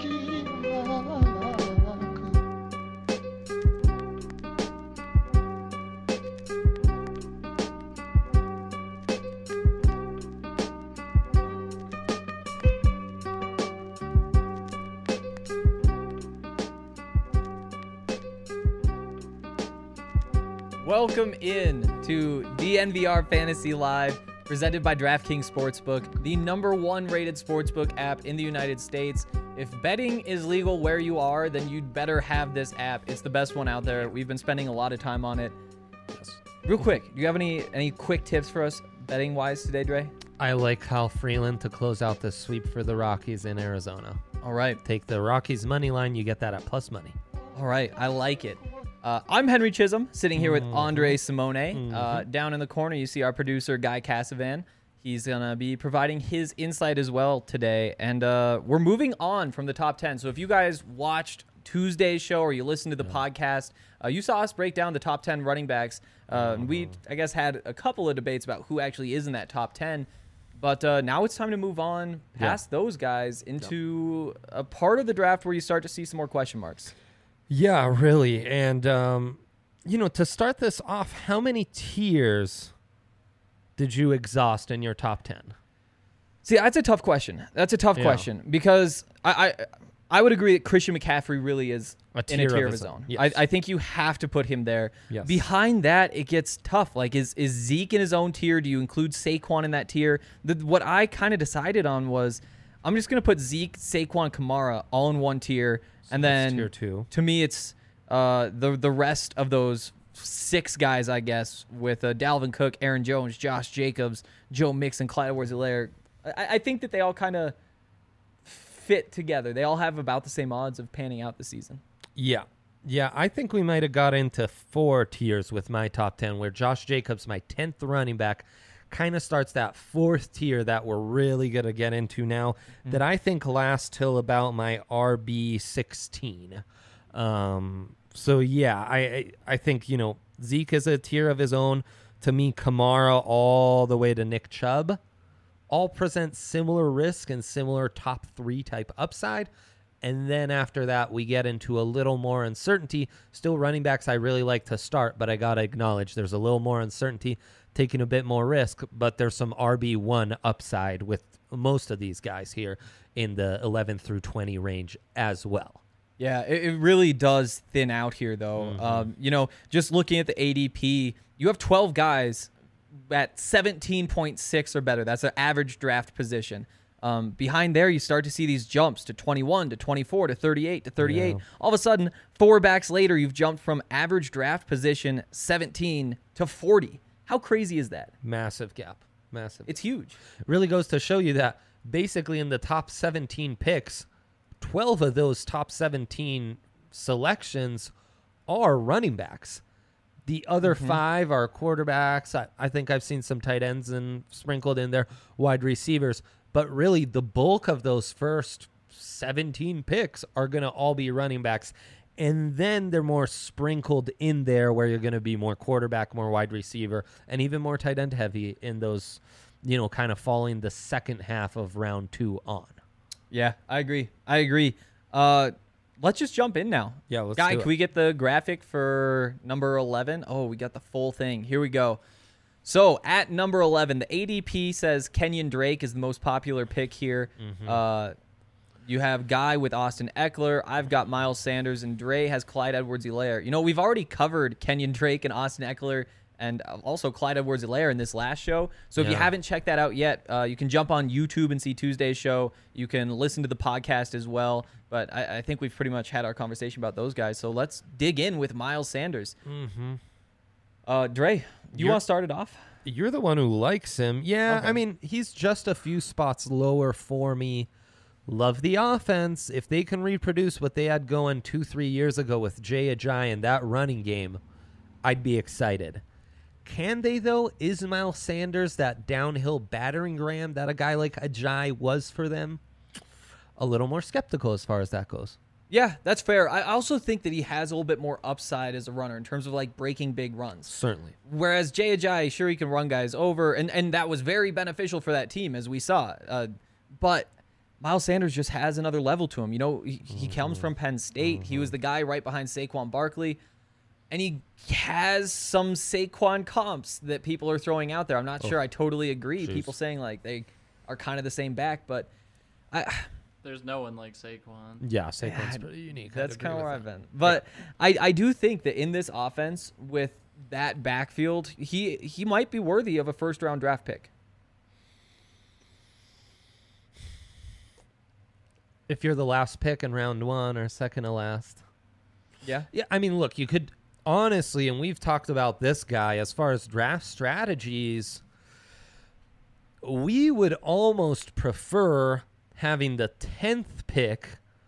Welcome in to DNVR Fantasy Live, presented by DraftKings Sportsbook, the #1 rated sportsbook app in the United States. If betting is legal where you are, then you'd better have this app. It's the best one out there. We've been spending a lot of time on it. Yes. Real quick, do you have any quick tips for us betting-wise today, Dre? I like Kyle Freeland to close out the sweep for the Rockies in Arizona. All right. Take the Rockies money line. You get that at plus money. All right. I like it. I'm Henry Chisholm, sitting here with Andre Simone. Down in the corner, you see our producer, Guy Cassavan. He's going to be providing his insight as well today. And we're moving on from the top 10. So if you guys watched Tuesday's show or you listened to the podcast, you saw us break down the top 10 running backs. We, I guess, had a couple of debates about who actually is in that top 10. But now it's time to move on past those guys into a part of the draft where you start to see some more question marks. Yeah, really. And, to start this off, how many tiers did you exhaust in your top 10? See, that's a tough question. Question because I would agree that Christian McCaffrey really is in a tier of his own. Yes. I think you have to put him there. Yes. Behind that, it gets tough. Like, is Zeke in his own tier? Do you include Saquon in that tier? What I kind of decided on was I'm just going to put Zeke, Saquon, Kamara all in one tier. And then tier 2. To me, it's the rest of those 6 guys, I guess, with Dalvin Cook, Aaron Jones, Josh Jacobs, Joe Mixon, Clyde Edwards-Helaire. I think that they all kind of fit together. They all have about the same odds of panning out this season. Yeah. Yeah, I think we might have got into 4 tiers with my top 10, where Josh Jacobs, my 10th running back, kind of starts that 4th tier that we're really going to get into now that I think lasts till about my RB16. So, yeah, I think, Zeke is a tier of his own. To me, Kamara all the way to Nick Chubb all present similar risk and similar top 3 type upside. And then after that, we get into a little more uncertainty. Still running backs I really like to start, but I got to acknowledge there's a little more uncertainty, taking a bit more risk, but there's some RB1 upside with most of these guys here in the 11 through 20 range as well. Yeah, it really does thin out here, though. Just looking at the ADP, you have 12 guys at 17.6 or better. That's an average draft position. Behind there, you start to see these jumps to 21, to 24, to 38, to 38. Yeah. All of a sudden, 4 backs later, you've jumped from average draft position 17 to 40. How crazy is that? Massive gap. Massive. It's huge. It really goes to show you that basically in the top 17 picks, 12 of those top 17 selections are running backs. The other 5 are quarterbacks. I think I've seen some tight ends and sprinkled in there, wide receivers. But really, the bulk of those first 17 picks are going to all be running backs. And then they're more sprinkled in there where you're going to be more quarterback, more wide receiver, and even more tight end heavy in those, kind of falling the second half of round 2 on. Yeah, I agree. Let's just jump in now. Yeah, let's Guy, do it. can we get the graphic for number 11? Oh, we got the full thing. Here we go. So at number 11, the ADP says Kenyon Drake is the most popular pick here. You have Guy with Austin Eckler. I've got Miles Sanders, and Dre has Clyde Edwards-Helaire. We've already covered Kenyon Drake and Austin Eckler and also Clyde Edwards-Helaire in this last show. So if you haven't checked that out yet, you can jump on YouTube and see Tuesday's show. You can listen to the podcast as well. But I think we've pretty much had our conversation about those guys. So let's dig in with Miles Sanders. Dre, you want to start it off? You're the one who likes him. Yeah, okay. I mean, he's just a few spots lower for me. Love the offense. If they can reproduce what they had going 2-3 years ago with Jay Ajayi and that running game, I'd be excited. Can they, though? Is Miles Sanders that downhill battering ram that a guy like Ajayi was for them? A little more skeptical as far as that goes. Yeah, that's fair. I also think that he has a little bit more upside as a runner in terms of like breaking big runs. Certainly. Whereas Jay Ajayi, sure, he can run guys over, and that was very beneficial for that team, as we saw. But Miles Sanders just has another level to him. You know, he comes from Penn State. He was the guy right behind Saquon Barkley. And he has some Saquon comps that people are throwing out there. I'm not sure I totally agree. Jeez. People saying like they are kind of the same back, but There's no one like Saquon. Yeah, Saquon's pretty unique. that's kind of where I've been. But I do think that in this offense with that backfield, he might be worthy of a first-round draft pick. If you're the last pick in round 1 or second to last. Yeah. Yeah, I mean, look, you could honestly, and we've talked about this guy as far as draft strategies, we would almost prefer having the 10th pick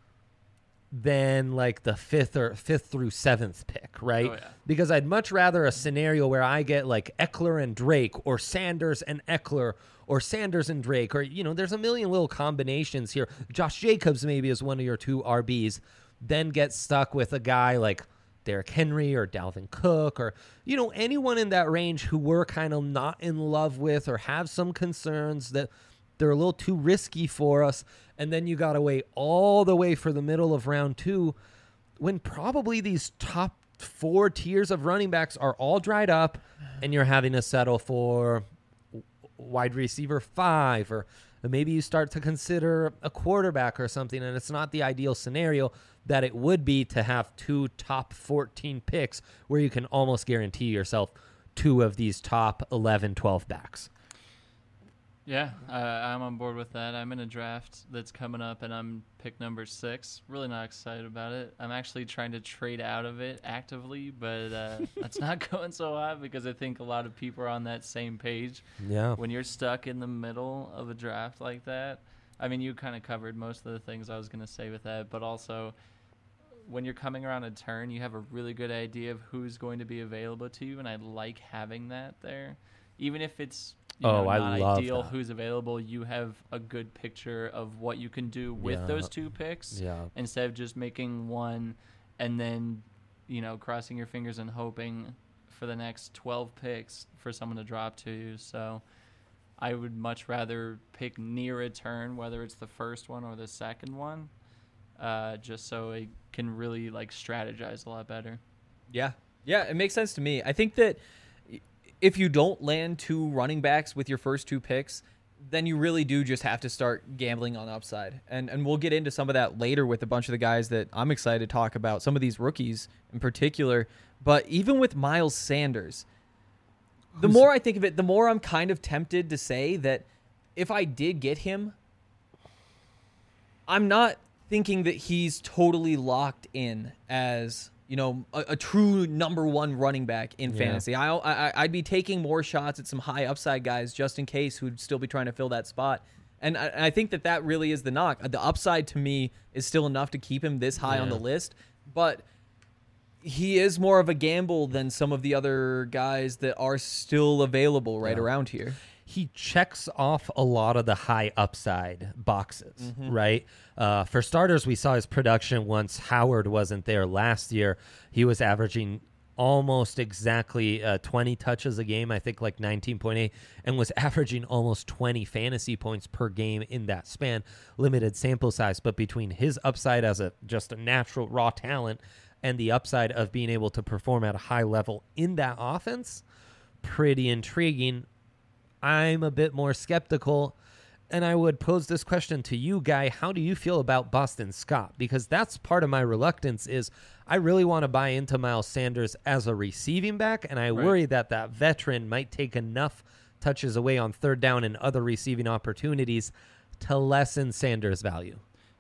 than like the 5th through 7th pick, right? Oh, yeah. Because I'd much rather a scenario where I get like Eckler and Drake or Sanders and Eckler or Sanders and Drake, or, you know, there's a million little combinations here. Josh Jacobs maybe is one of your 2 RBs, then get stuck with a guy like Derrick Henry or Dalvin Cook or, you know, anyone in that range who we're kind of not in love with or have some concerns that they're a little too risky for us. And then you got to wait all the way for the middle of round 2 when probably these top 4 tiers of running backs are all dried up and you're having to settle for wide receiver 5, or maybe you start to consider a quarterback or something, and it's not the ideal scenario that it would be to have 2 top 14 picks where you can almost guarantee yourself 2 of these top 11, 12 backs. Yeah, I'm on board with that. I'm in a draft that's coming up, and I'm pick number 6. Really not excited about it. I'm actually trying to trade out of it actively, but that's not going so hot because I think a lot of people are on that same page. Yeah. When you're stuck in the middle of a draft like that, I mean, you kind of covered most of the things I was going to say with that, but also when you're coming around a turn, you have a really good idea of who's going to be available to you, and I like having that there. Even if it's not ideal who's available, you have a good picture of what you can do with those 2 picks instead of just making one and then, you know, crossing your fingers and hoping for the next 12 picks for someone to drop to you. So I would much rather pick near a turn, whether it's the first one or the second one, just so I can really like strategize a lot better. Yeah, it makes sense to me. I think that if you don't land 2 running backs with your first 2 picks, then you really do just have to start gambling on upside. And we'll get into some of that later with a bunch of the guys that I'm excited to talk about, some of these rookies in particular. But even with Miles Sanders, the more I think of it, the more I'm kind of tempted to say that if I did get him, I'm not thinking that he's totally locked in as, you know, a true number 1 running back in fantasy. I'd be taking more shots at some high upside guys just in case who'd still be trying to fill that spot. And I think that really is the knock. The upside to me is still enough to keep him this high on the list, but he is more of a gamble than some of the other guys that are still available around here. He checks off a lot of the high upside boxes, right? For starters, we saw his production once Howard wasn't there last year. He was averaging almost exactly 20 touches a game, I think like 19.8, and was averaging almost 20 fantasy points per game in that span. Limited sample size, but between his upside as just a natural raw talent and the upside of being able to perform at a high level in that offense, pretty intriguing. I'm a bit more skeptical, and I would pose this question to you, Guy. How do you feel about Boston Scott? Because that's part of my reluctance is I really want to buy into Miles Sanders as a receiving back, and I worry that veteran might take enough touches away on third down and other receiving opportunities to lessen Sanders' value.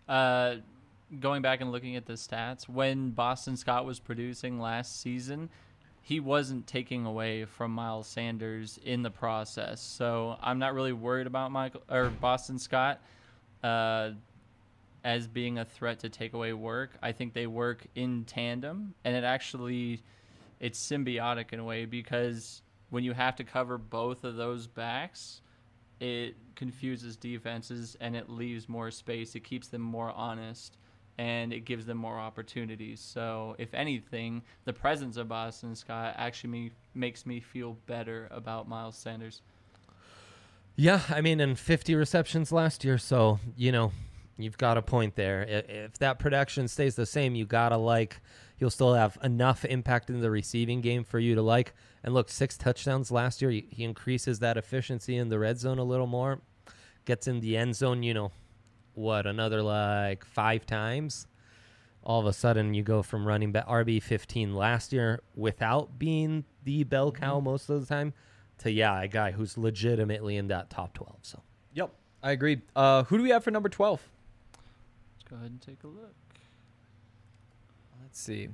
Going back and looking at the stats, when Boston Scott was producing last season, he wasn't taking away from Miles Sanders in the process. So I'm not really worried about Boston Scott as being a threat to take away work. I think they work in tandem, and it's symbiotic in a way because when you have to cover both of those backs, it confuses defenses and it leaves more space. It keeps them more honest, and it gives them more opportunities. So, if anything, the presence of Boston Scott actually makes me feel better about Miles Sanders. Yeah, I mean, and 50 receptions last year, so, you know, You've got a point there. If that production stays the same, you got to like, he'll still have enough impact in the receiving game for you to like. And look, 6 touchdowns last year. He increases that efficiency in the red zone a little more. Gets in the end zone, another like 5 times. All of a sudden, you go from running back RB15 last year without being the bell cow most of the time to, a guy who's legitimately in that top 12. So, Yep, I agree. Who do we have for number 12? Let's go ahead and take a look. Let's see.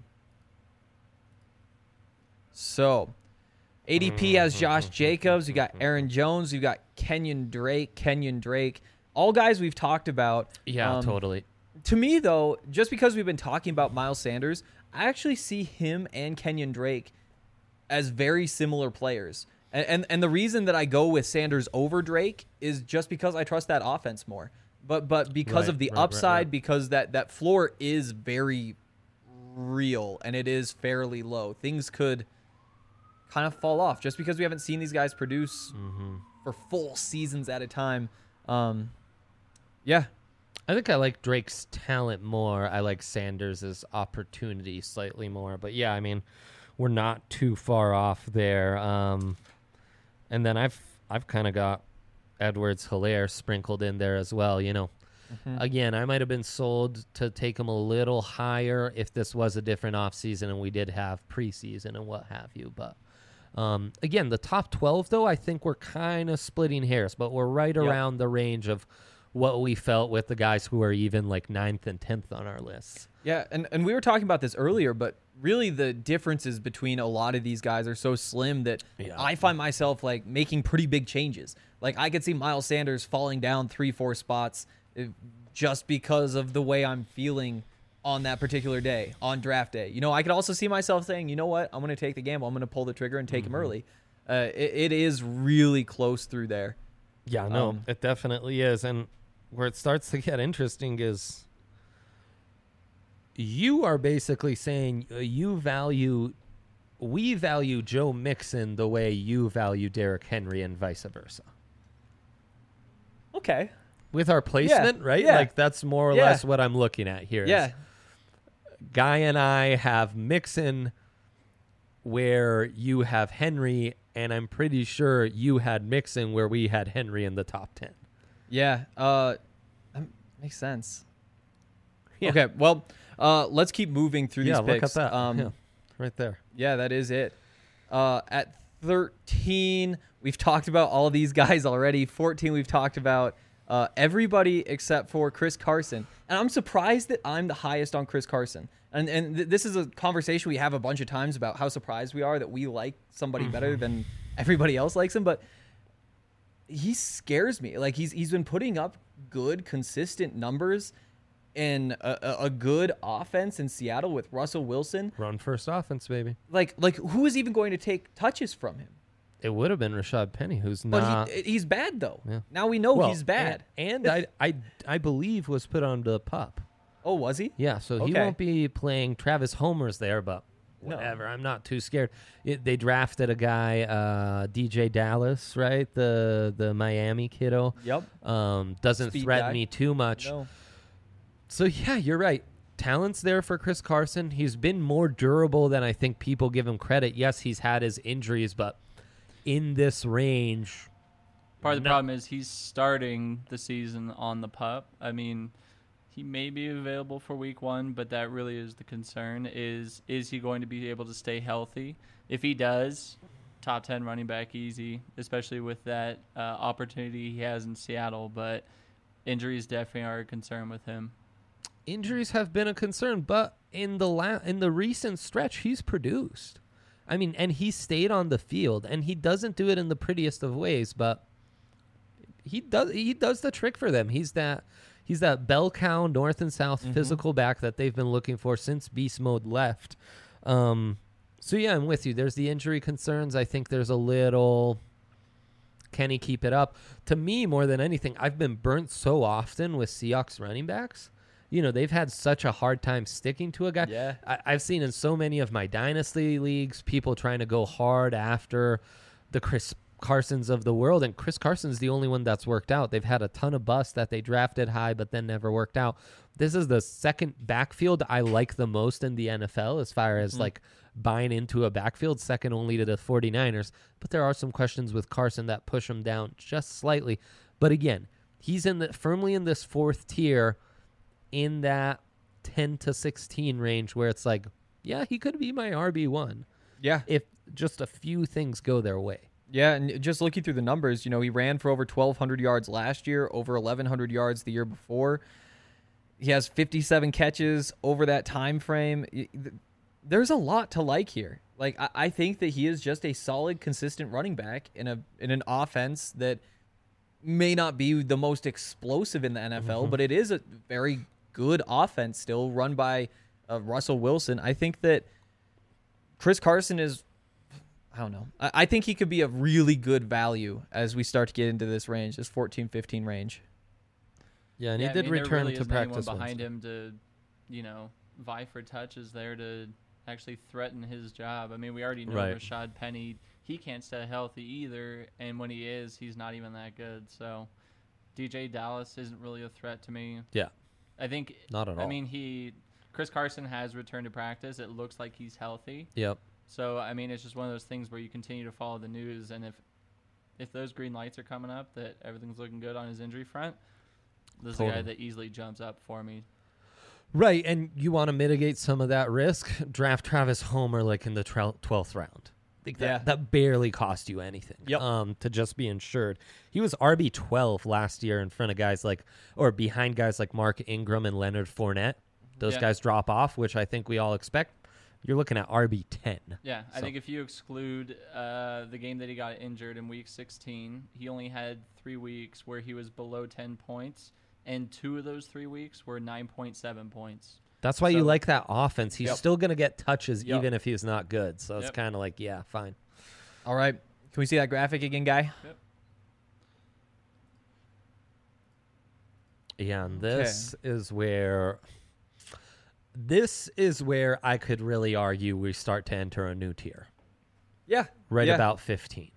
So, ADP has Josh Jacobs. You got Aaron Jones. You got Kenyon Drake. All guys we've talked about. yeah, totally. To me, though, just because we've been talking about Miles Sanders, I actually see him and Kenyon Drake as very similar players. And the reason that I go with Sanders over Drake is just because I trust that offense more. But because of the upside, because that floor is very real and it is fairly low. Things could kind of fall off just because we haven't seen these guys produce for full seasons at a time. Yeah. I think I like Drake's talent more. I like Sanders' opportunity slightly more. But, yeah, I mean, we're not too far off there. And then I've kind of got Edwards-Helaire sprinkled in there as well, Again, I might have been sold to take him a little higher if this was a different offseason and we did have preseason and what have you. But, again, the top 12, though, I think we're kind of splitting hairs. But we're right around the range of what we felt with the guys who are even like 9th and 10th on our lists. Yeah, and we were talking about this earlier, but really the differences between a lot of these guys are so slim that I find myself like making pretty big changes. Like I could see Miles Sanders falling down 3-4 spots just because of the way I'm feeling on that particular day, on draft day. I could also see myself saying, you know what, I'm going to take the gamble. I'm going to pull the trigger and take him early. It is really close through there. Yeah, no, it definitely is. And where it starts to get interesting is you are basically saying we value Joe Mixon the way you value Derrick Henry and vice versa. Okay. With our placement, right? Yeah. Like that's more or less what I'm looking at here. Yeah. Guy and I have Mixon where you have Henry, and I'm pretty sure you had Mixon where we had Henry in the top 10. Yeah, that makes sense. Yeah. Okay, well, let's keep moving through these picks. Look at that. Right there. Yeah, that is it. At 13, we've talked about all these guys already. 14, we've talked about everybody except for Chris Carson. And I'm surprised that I'm the highest on Chris Carson. And this is a conversation we have a bunch of times about how surprised we are that we like somebody better than everybody else likes him. But he scares me. Like he's been putting up good, consistent numbers in a good offense in Seattle with Russell Wilson. Run first offense, baby. Like who is even going to take touches from him? It would have been Rashad Penny, who's not. But he's bad though. Yeah. Now we know he's bad. And I believe was put on the PUP. Oh, was he? Yeah, so he won't be playing. Travis Homer's there, but whatever. No. I'm not too scared. They drafted a guy, DJ Dallas, right? The Miami kiddo. Yep. Doesn't Speed threaten guy. me too much. No. So, yeah, you're right. Talent's there for Chris Carson. He's been more durable than I think people give him credit. Yes, he's had his injuries, but in this range. Part of the problem is he's starting the season on the PUP. I mean, he may be available for week 1, but that really is the concern. Is he going to be able to stay healthy? If he does, top 10 running back easy, especially with that opportunity he has in Seattle. But injuries definitely are a concern with him. Injuries have been a concern, but in the recent stretch, he's produced. I mean, and he stayed on the field, and he doesn't do it in the prettiest of ways, but he does the trick for them. He's that bell cow north and south physical back that they've been looking for since Beast Mode left. So yeah, I'm with you. There's the injury concerns. I think there's a little, can he keep it up? To me, more than anything, I've been burnt so often with Seahawks running backs. You know, they've had such a hard time sticking to a guy. Yeah. I've seen in so many of my dynasty leagues people trying to go hard after the Chris Carsons of the world, and Chris Carson's the only one that's worked out. They've had a ton of busts that they drafted high but then never worked out. This is the second backfield I like the most in the NFL as far as like buying into a backfield, second only to the 49ers. But there are some questions with Carson that push him down just slightly. But again, he's firmly in this fourth tier in that 10 to 16 range where it's like, yeah, he could be my RB1. Yeah. If just a few things go their way. Yeah, and just looking through the numbers, you know, he ran for over 1,200 yards last year, over 1,100 yards the year before. He has 57 catches over that time frame. There's a lot to like here. Like, I think that he is just a solid, consistent running back in an offense that may not be the most explosive in the NFL, but it is a very good offense still run by Russell Wilson. I think that Chris Carson is... I don't know. I think he could be a really good value as we start to get into this range, this 14-15 range. Yeah, and he did return to practice behind him to, vie for touches there to actually threaten his job. I mean, we already know Rashad Penny, he can't stay healthy either, and when he is, he's not even that good. So DJ Dallas isn't really a threat to me. Yeah. I think not at all. I mean, Chris Carson has returned to practice. It looks like he's healthy. Yep. So, I mean, it's just one of those things where you continue to follow the news, and if those green lights are coming up that everything's looking good on his injury front, this is a guy that easily jumps up for me. Right, and you want to mitigate some of that risk, draft Travis Homer like in the 12th round. I think that barely cost you anything to just be insured. He was RB12 last year in front of behind guys like Mark Ingram and Leonard Fournette. Those guys drop off, which I think we all expect. You're looking at RB10. Yeah, I think if you exclude the game that he got injured in Week 16, he only had 3 weeks where he was below 10 points, and 2 of those 3 weeks were 9.7 points. That's why you like that offense. He's still going to get touches even if he's not good. So it's kind of like, yeah, fine. All right. Can we see that graphic again, Guy? Yep. Yeah, and this is where I could really argue we start to enter a new tier. Yeah. About 15.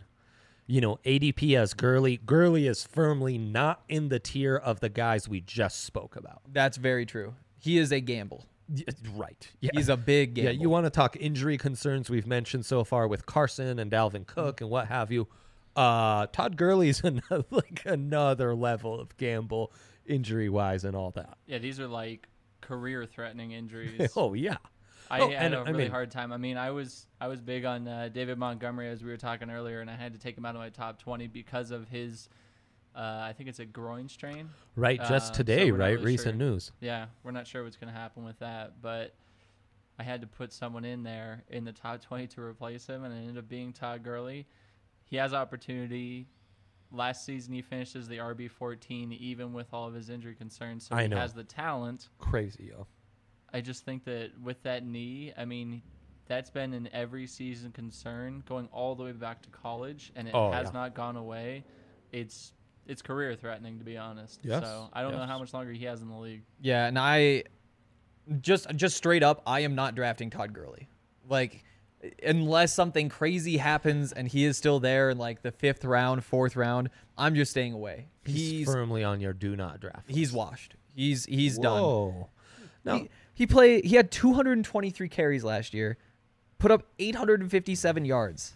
ADP as Gurley. Gurley is firmly not in the tier of the guys we just spoke about. That's very true. He is a gamble. Right. Yeah. He's a big gamble. Yeah, you want to talk injury concerns we've mentioned so far with Carson and Dalvin Cook and what have you. Todd Gurley's another level of gamble injury-wise and all that. Yeah, these are like career-threatening injuries. Oh, yeah. I had a really hard time. I mean, I was big on David Montgomery, as we were talking earlier, and I had to take him out of my top 20 because of his, I think it's a groin strain. Right, just today, so right? Really Recent news. Yeah, we're not sure what's going to happen with that, but I had to put someone in there in the top 20 to replace him, and it ended up being Todd Gurley. He has opportunity. Last season, he finished as the RB14, even with all of his injury concerns, so he has the talent. Crazy, yo. I just think that with that knee, I mean, that's been an every season concern going all the way back to college, and it has not gone away. It's career threatening, to be honest. Yes. So I don't know how much longer he has in the league. Yeah, and I just straight up, I am not drafting Todd Gurley. Like, unless something crazy happens and he is still there in like the 5th round, 4th round, I'm just staying away. He's firmly on your do not draft list. He's washed. He's done. Whoa. No. He had 223 carries last year, put up 857 yards.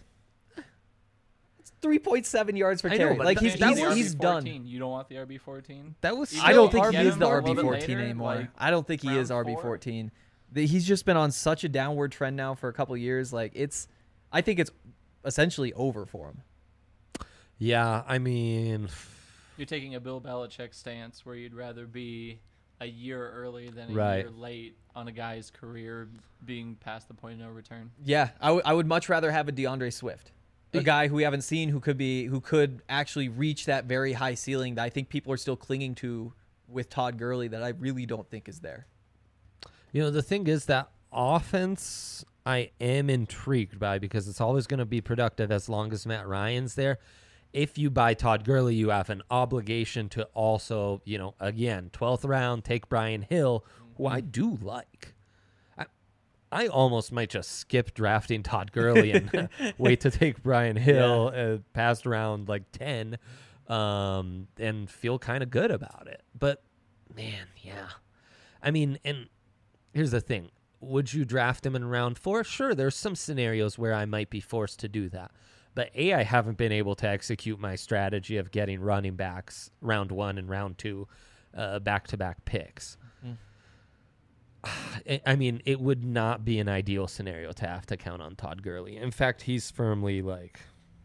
It's 3.7 yards per carry. Like he's done. You don't want the RB14? I don't think he is the RB14 anymore. I don't think he is RB14. He's just been on such a downward trend now for a couple of years. Like I think it's essentially over for him. Yeah, I mean, you're taking a Bill Belichick stance where you'd rather be a year early than a year late on a guy's career being past the point of no return. Yeah, I would much rather have a DeAndre Swift, a guy who we haven't seen who could actually reach that very high ceiling that I think people are still clinging to with Todd Gurley that I really don't think is there. The thing is that offense I am intrigued by because it's always going to be productive as long as Matt Ryan's there. If you buy Todd Gurley, you have an obligation to also, again, 12th round, take Brian Hill, who I do like. I almost might just skip drafting Todd Gurley and wait to take Brian Hill past round like 10 and feel kind of good about it. But, man, yeah. I mean, and here's the thing. Would you draft him in round 4? Sure, there's some scenarios where I might be forced to do that. But I haven't been able to execute my strategy of getting running backs round 1 and round 2 back-to-back picks. I mean, it would not be an ideal scenario to have to count on Todd Gurley. In fact, he's firmly like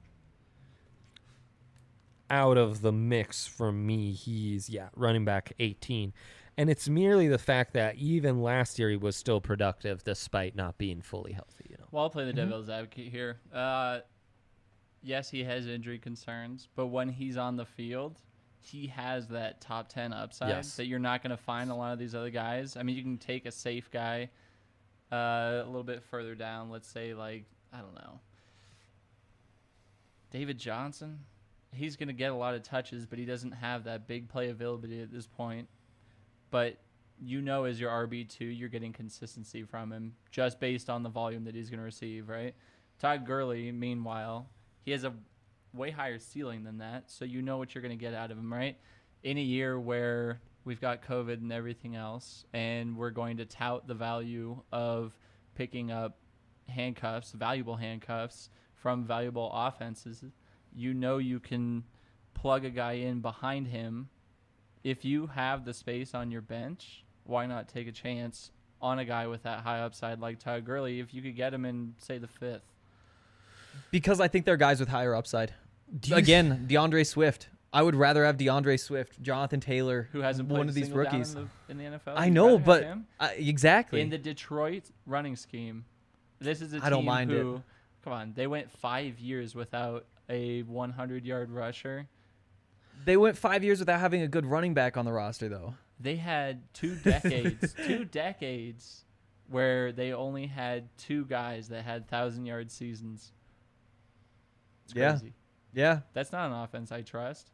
out of the mix for me. He's running back 18. And it's merely the fact that even last year he was still productive despite not being fully healthy, you know. Well, I'll play the devil's advocate here. Yes, he has injury concerns, but when he's on the field, he has that top 10 upside that you're not going to find a lot of these other guys. I mean, you can take a safe guy a little bit further down. Let's say, like, I don't know, David Johnson. He's going to get a lot of touches, but he doesn't have that big play availability at this point. But you know, as your RB2, you're getting consistency from him just based on the volume that he's going to receive, right? Todd Gurley, meanwhile, he has a way higher ceiling than that, so you know what you're going to get out of him, right? In a year where we've got COVID and everything else, and we're going to tout the value of picking up handcuffs, valuable handcuffs from valuable offenses, you know you can plug a guy in behind him. If you have the space on your bench, why not take a chance on a guy with that high upside like Todd Gurley if you could get him in, say, the 5th? Because I think they're guys with higher upside. Again, DeAndre Swift. I would rather have DeAndre Swift, Jonathan Taylor, who hasn't played one of these rookies in the NFL. I know, but exactly in the Detroit running scheme, this is a team I don't mind who, it. Come on, they went 5 years without a 100-yard rusher. They went 5 years without having a good running back on the roster, though. They had 2 decades, 2 decades where they only had 2 guys that had 1,000-yard seasons. It's crazy. Yeah. That's not an offense I trust.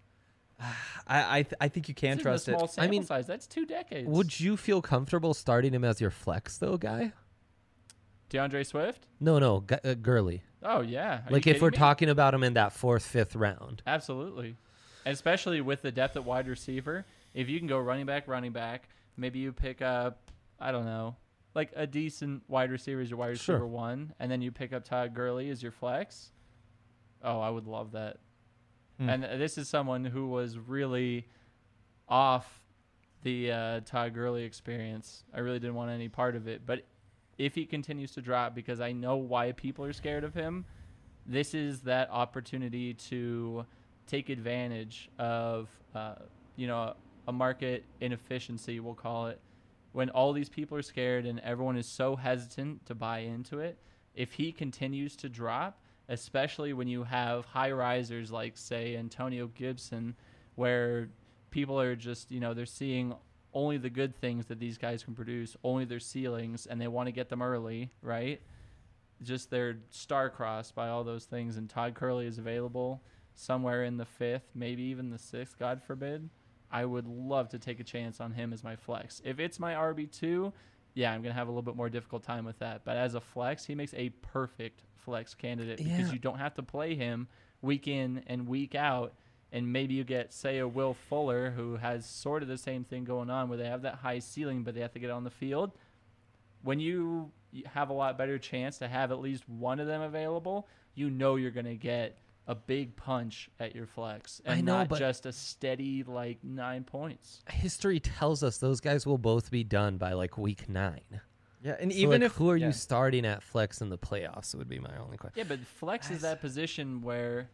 I think you can trust it. Small sample size. That's 2 decades. Would you feel comfortable starting him as your flex, though, guy? DeAndre Swift? No, Gurley. Oh, yeah. Like, if we're talking about him in that 4th, 5th round. Absolutely. And especially with the depth at wide receiver, if you can go running back, maybe you pick up, I don't know, like a decent wide receiver as your wide receiver 1, and then you pick up Todd Gurley as your flex. Oh, I would love that. And this is someone who was really off the Todd Gurley experience. I really didn't want any part of it. But if he continues to drop, because I know why people are scared of him, this is that opportunity to take advantage of, a market inefficiency, we'll call it. When all these people are scared and everyone is so hesitant to buy into it, if he continues to drop, especially when you have high risers like, say, Antonio Gibson, where people are just, they're seeing only the good things that these guys can produce, only their ceilings, and they want to get them early, right? Just they're star-crossed by all those things, and Todd Gurley is available somewhere in the 5th, maybe even the 6th, God forbid. I would love to take a chance on him as my flex. If it's my RB2, yeah, I'm going to have a little bit more difficult time with that. But as a flex, he makes a perfect flex candidate because you don't have to play him week in and week out. And maybe you get, say, a Will Fuller who has sort of the same thing going on where they have that high ceiling, but they have to get on the field. When you have a lot better chance to have at least one of them available, you know you're going to get a big punch at your flex and not just a steady, 9 points. History tells us those guys will both be done by, week 9. Yeah, and so even if who are you starting at flex in the playoffs would be my only question. Yeah, but flex is that position where,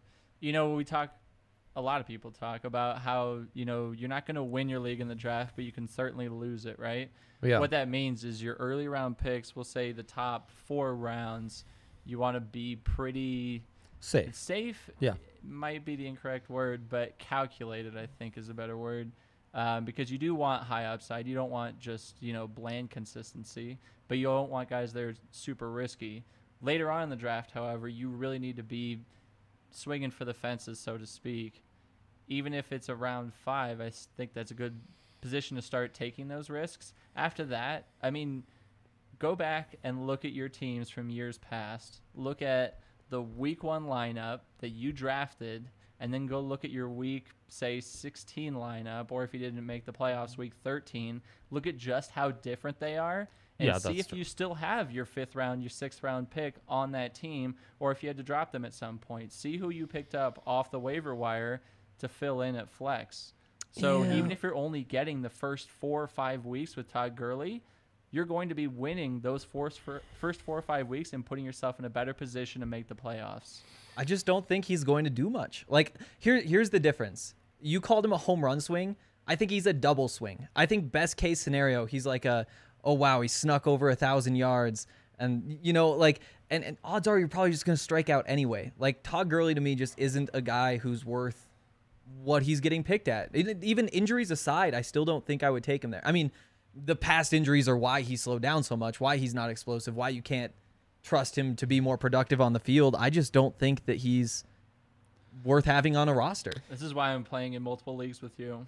a lot of people talk about how, you're not going to win your league in the draft, but you can certainly lose it, right? Yeah. What that means is your early round picks, we'll say the top 4 rounds, you want to be pretty safe. Yeah. Might be the incorrect word, but calculated, I think, is a better word. Because you do want high upside. You don't want just, bland consistency, but you don't want guys that are super risky. Later on in the draft, however, you really need to be swinging for the fences, so to speak. Even if it's around 5, I think that's a good position to start taking those risks. After that, go back and look at your teams from years past. Look at the week 1 lineup that you drafted, and then go look at your week, say, 16 lineup, or if you didn't make the playoffs, week 13. Look at just how different they are, and see if you still have your 5th round, your 6th round pick on that team, or if you had to drop them at some point. See who you picked up off the waiver wire to fill in at flex. So even if you're only getting the first 4 or 5 weeks with Todd Gurley, you're going to be winning those first 4 or 5 weeks and putting yourself in a better position to make the playoffs. I just don't think he's going to do much. Like, here's the difference. You called him a home run swing. I think he's a double swing. I think best case scenario, he's like oh wow, he snuck over 1,000 yards. And, you know, like, and odds are you're probably just going to strike out anyway. Like, Todd Gurley to me just isn't a guy who's worth what he's getting picked at. Even injuries aside, I still don't think I would take him there. I mean, the past injuries are why he slowed down so much, why he's not explosive, why you can't trust him to be more productive on the field. I just don't think that he's worth having on a roster. This is why I'm playing in multiple leagues with you.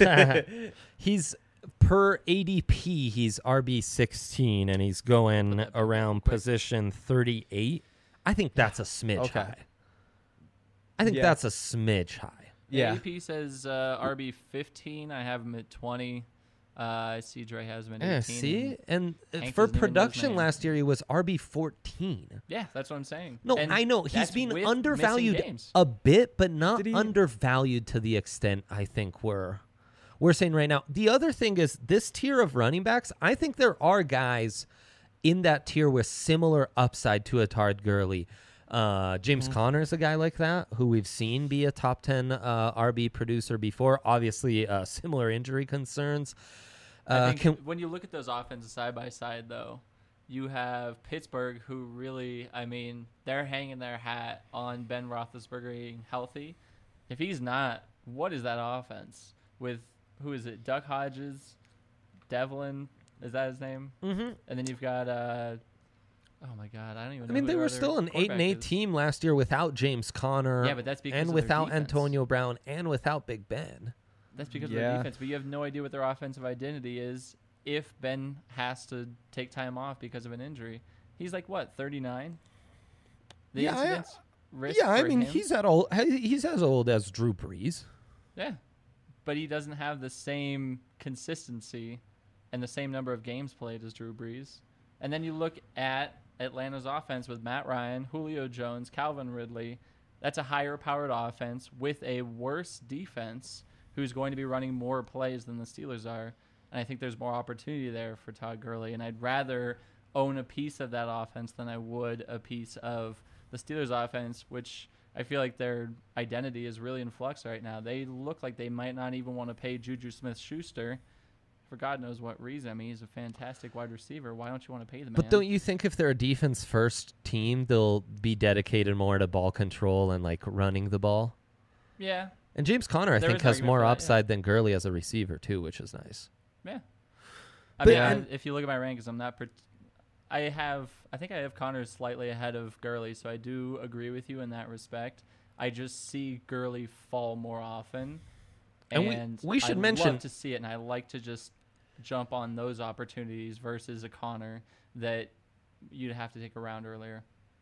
He's per ADP, he's RB16, and he's going around position 38. I think that's a smidge high. I think that's a smidge high. Yeah. ADP says RB15. I have him at 20. I see Dre has him at 18. Yeah, see? And Hank for doesn't even know his production name. last year, he was RB14. Yeah, that's what I'm saying. No, And I know. He's that's been with undervalued missing games. a bit, but not Did he- undervalued to the extent I think we're saying right now. The other thing is this tier of running backs, I think there are guys in that tier with similar upside to a Todd Gurley. James Conner is a guy like that who we've seen be a top 10 RB producer before. Obviously, similar injury concerns. I think when you look at those offenses side by side, though, you have Pittsburgh, who really, I mean, they're hanging their hat on Ben Roethlisberger being healthy. If he's not, what is that offense with, who is it, Duck Hodges, Devlin, is that his name? Mm-hmm. And then you've got, oh my God, I don't even know. I mean, who they their were other still an 8-8 quarterback is. team last year without James Conner. Yeah, but that's because and of their without defense. Antonio Brown and without Big Ben. That's because of their Yeah. defense, but you have no idea what their offensive identity is if Ben has to take time off because of an injury. He's like, what, 39? The Yeah, incidence risk Yeah, I for mean, him? he's as old as Drew Brees. Yeah, but he doesn't have the same consistency and the same number of games played as Drew Brees. And then you look at Atlanta's offense with Matt Ryan, Julio Jones, Calvin Ridley. That's a higher-powered offense with a worse defense who's going to be running more plays than the Steelers are. And I think there's more opportunity there for Todd Gurley. And I'd rather own a piece of that offense than I would a piece of the Steelers offense, which I feel like their identity is really in flux right now. They look like they might not even want to pay Juju Smith-Schuster for God knows what reason. I mean, he's a fantastic wide receiver. Why don't you want to pay the man? But don't you think if they're a defense-first team, they'll be dedicated more to ball control and, like, running the ball? Yeah. And James Conner, I There think, is has argument more for that, yeah. upside than Gurley as a receiver, too, which is nice. Yeah. But- and- If you look at my rankings, I'm not. I think I have Connor slightly ahead of Gurley, so I do agree with you in that respect. I just see Gurley fall more often, And we should I mention- love to see it, and I like to just jump on those opportunities versus a Connor that you'd have to take a round earlier.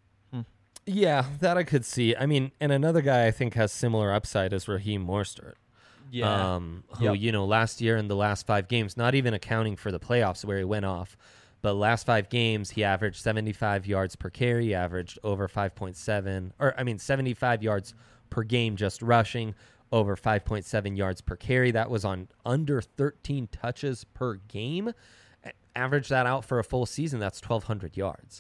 Yeah, that I could see. I mean, and another guy I think has similar upside is Raheem Mostert. Yeah. Who, Yep. you know, last year in the last 5 games, not even accounting for the playoffs where he went off, but last 5 games, he averaged 75 yards per carry, he averaged over 75 yards per game just rushing, over 5.7 yards per carry. That was on under 13 touches per game. Average that out for a full season, that's 1,200 yards.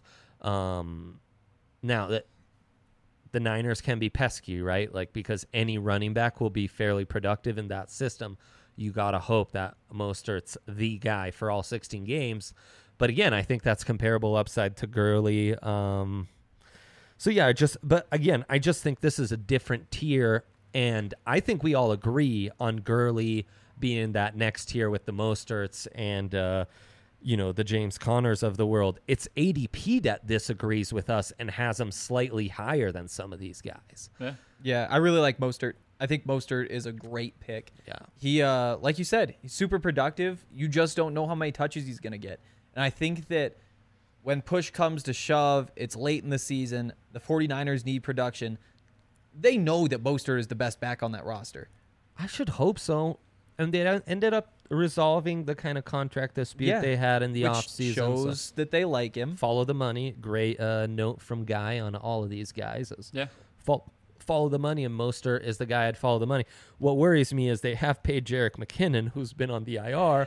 Now, the Niners can be pesky, right? Like, because any running back will be fairly productive in that system. You got to hope that Mostert's the guy for all 16 games. But again, I think that's comparable upside to Gurley. So yeah, I just think this is a different tier. And I think we all agree on Gurley being that next tier with the Mosterts and, the James Connors of the world. It's ADP that disagrees with us and has him slightly higher than some of these guys. Yeah. Yeah, I really like Mostert. I think Mostert is a great pick. Yeah. He, like you said, he's super productive. You just don't know how many touches he's going to get. And I think that when push comes to shove, it's late in the season, the 49ers need production. They know that Mostert is the best back on that roster. I should hope so. And they ended up resolving the kind of contract dispute they had in the which offseason. shows that they like him. Follow the money. Great note from Guy on all of these guys. Yeah. Follow the money, and Mostert is the guy I'd follow the money. What worries me is they have paid Jerick McKinnon, who's been on the IR,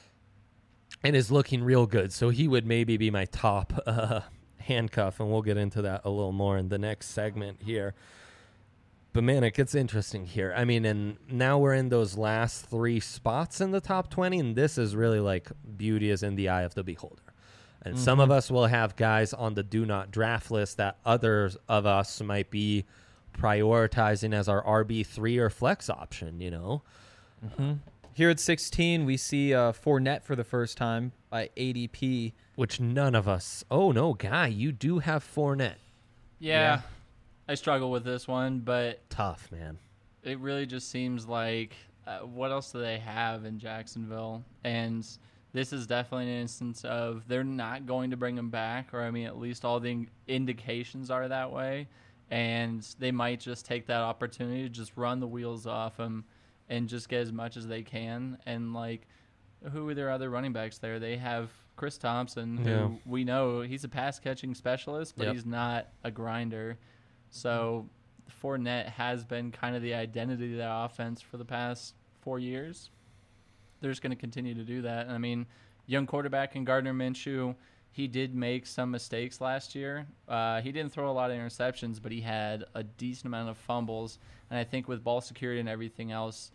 and is looking real good. So he would maybe be my top handcuff, and we'll get into that a little more in the next segment here. But, man, it gets interesting here. I mean, and now we're in those last 3 spots in the top 20, and this is really like beauty is in the eye of the beholder. And some of us will have guys on the do not draft list that others of us might be prioritizing as our RB3 or flex option, you know? Here at 16, we see Fournette for the first time by ADP. Which none of us. Oh, no, Guy, you do have Fournette. Yeah. I struggle with this one, but Tough, man. it really just seems like what else do they have in Jacksonville? And this is definitely an instance of they're not going to bring him back, or I mean, at least all the indications are that way. And they might just take that opportunity to just run the wheels off him and just get as much as they can. And, like, who are their other running backs there? They have Chris Thompson, who we know he's a pass-catching specialist, but he's not a grinder. So Fournette has been kind of the identity of the offense for the past 4 years. They're just going to continue to do that. And, I mean, young quarterback in Gardner Minshew, he did make some mistakes last year. He didn't throw a lot of interceptions, but he had a decent amount of fumbles. And I think with ball security and everything else,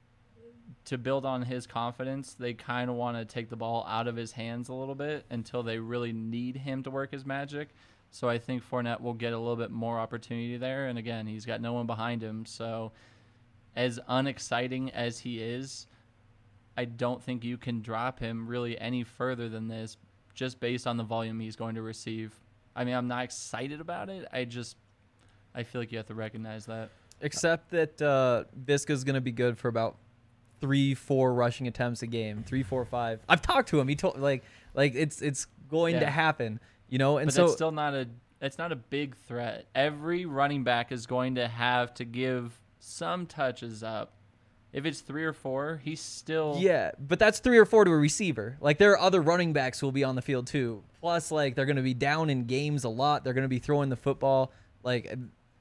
to build on his confidence, they kind of want to take the ball out of his hands a little bit until they really need him to work his magic. So I think Fournette will get a little bit more opportunity there. And, again, he's got no one behind him. So as unexciting as he is, I don't think you can drop him really any further than this just based on the volume he's going to receive. I mean, I'm not excited about it. I feel like you have to recognize that. Except that Visca's going to be good for about 3-4 rushing attempts a game, 3, 4, 5. I've talked to him. He told like it's going to happen, you know. And but so it's still not a big threat. Every running back is going to have to give some touches up. If it's 3 or 4, he's still but that's 3 or 4 to a receiver. Like, there are other running backs who will be on the field too. Plus, like, they're going to be down in games a lot. They're going to be throwing the football. Like,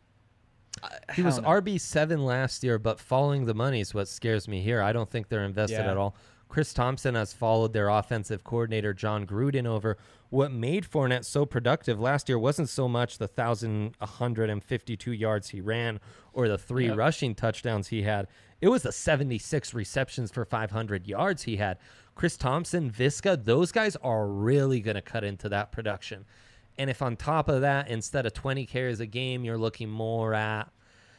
he was RB7 last year, but following the money is what scares me here. I don't think they're invested at all. Chris Thompson has followed their offensive coordinator, John Gruden, over. What made Fournette so productive last year wasn't so much the 1,152 yards he ran or the 3 rushing touchdowns he had. It was the 76 receptions for 500 yards he had. Chris Thompson, Visca, those guys are really going to cut into that production. And if on top of that, instead of 20 carries a game, you're looking more at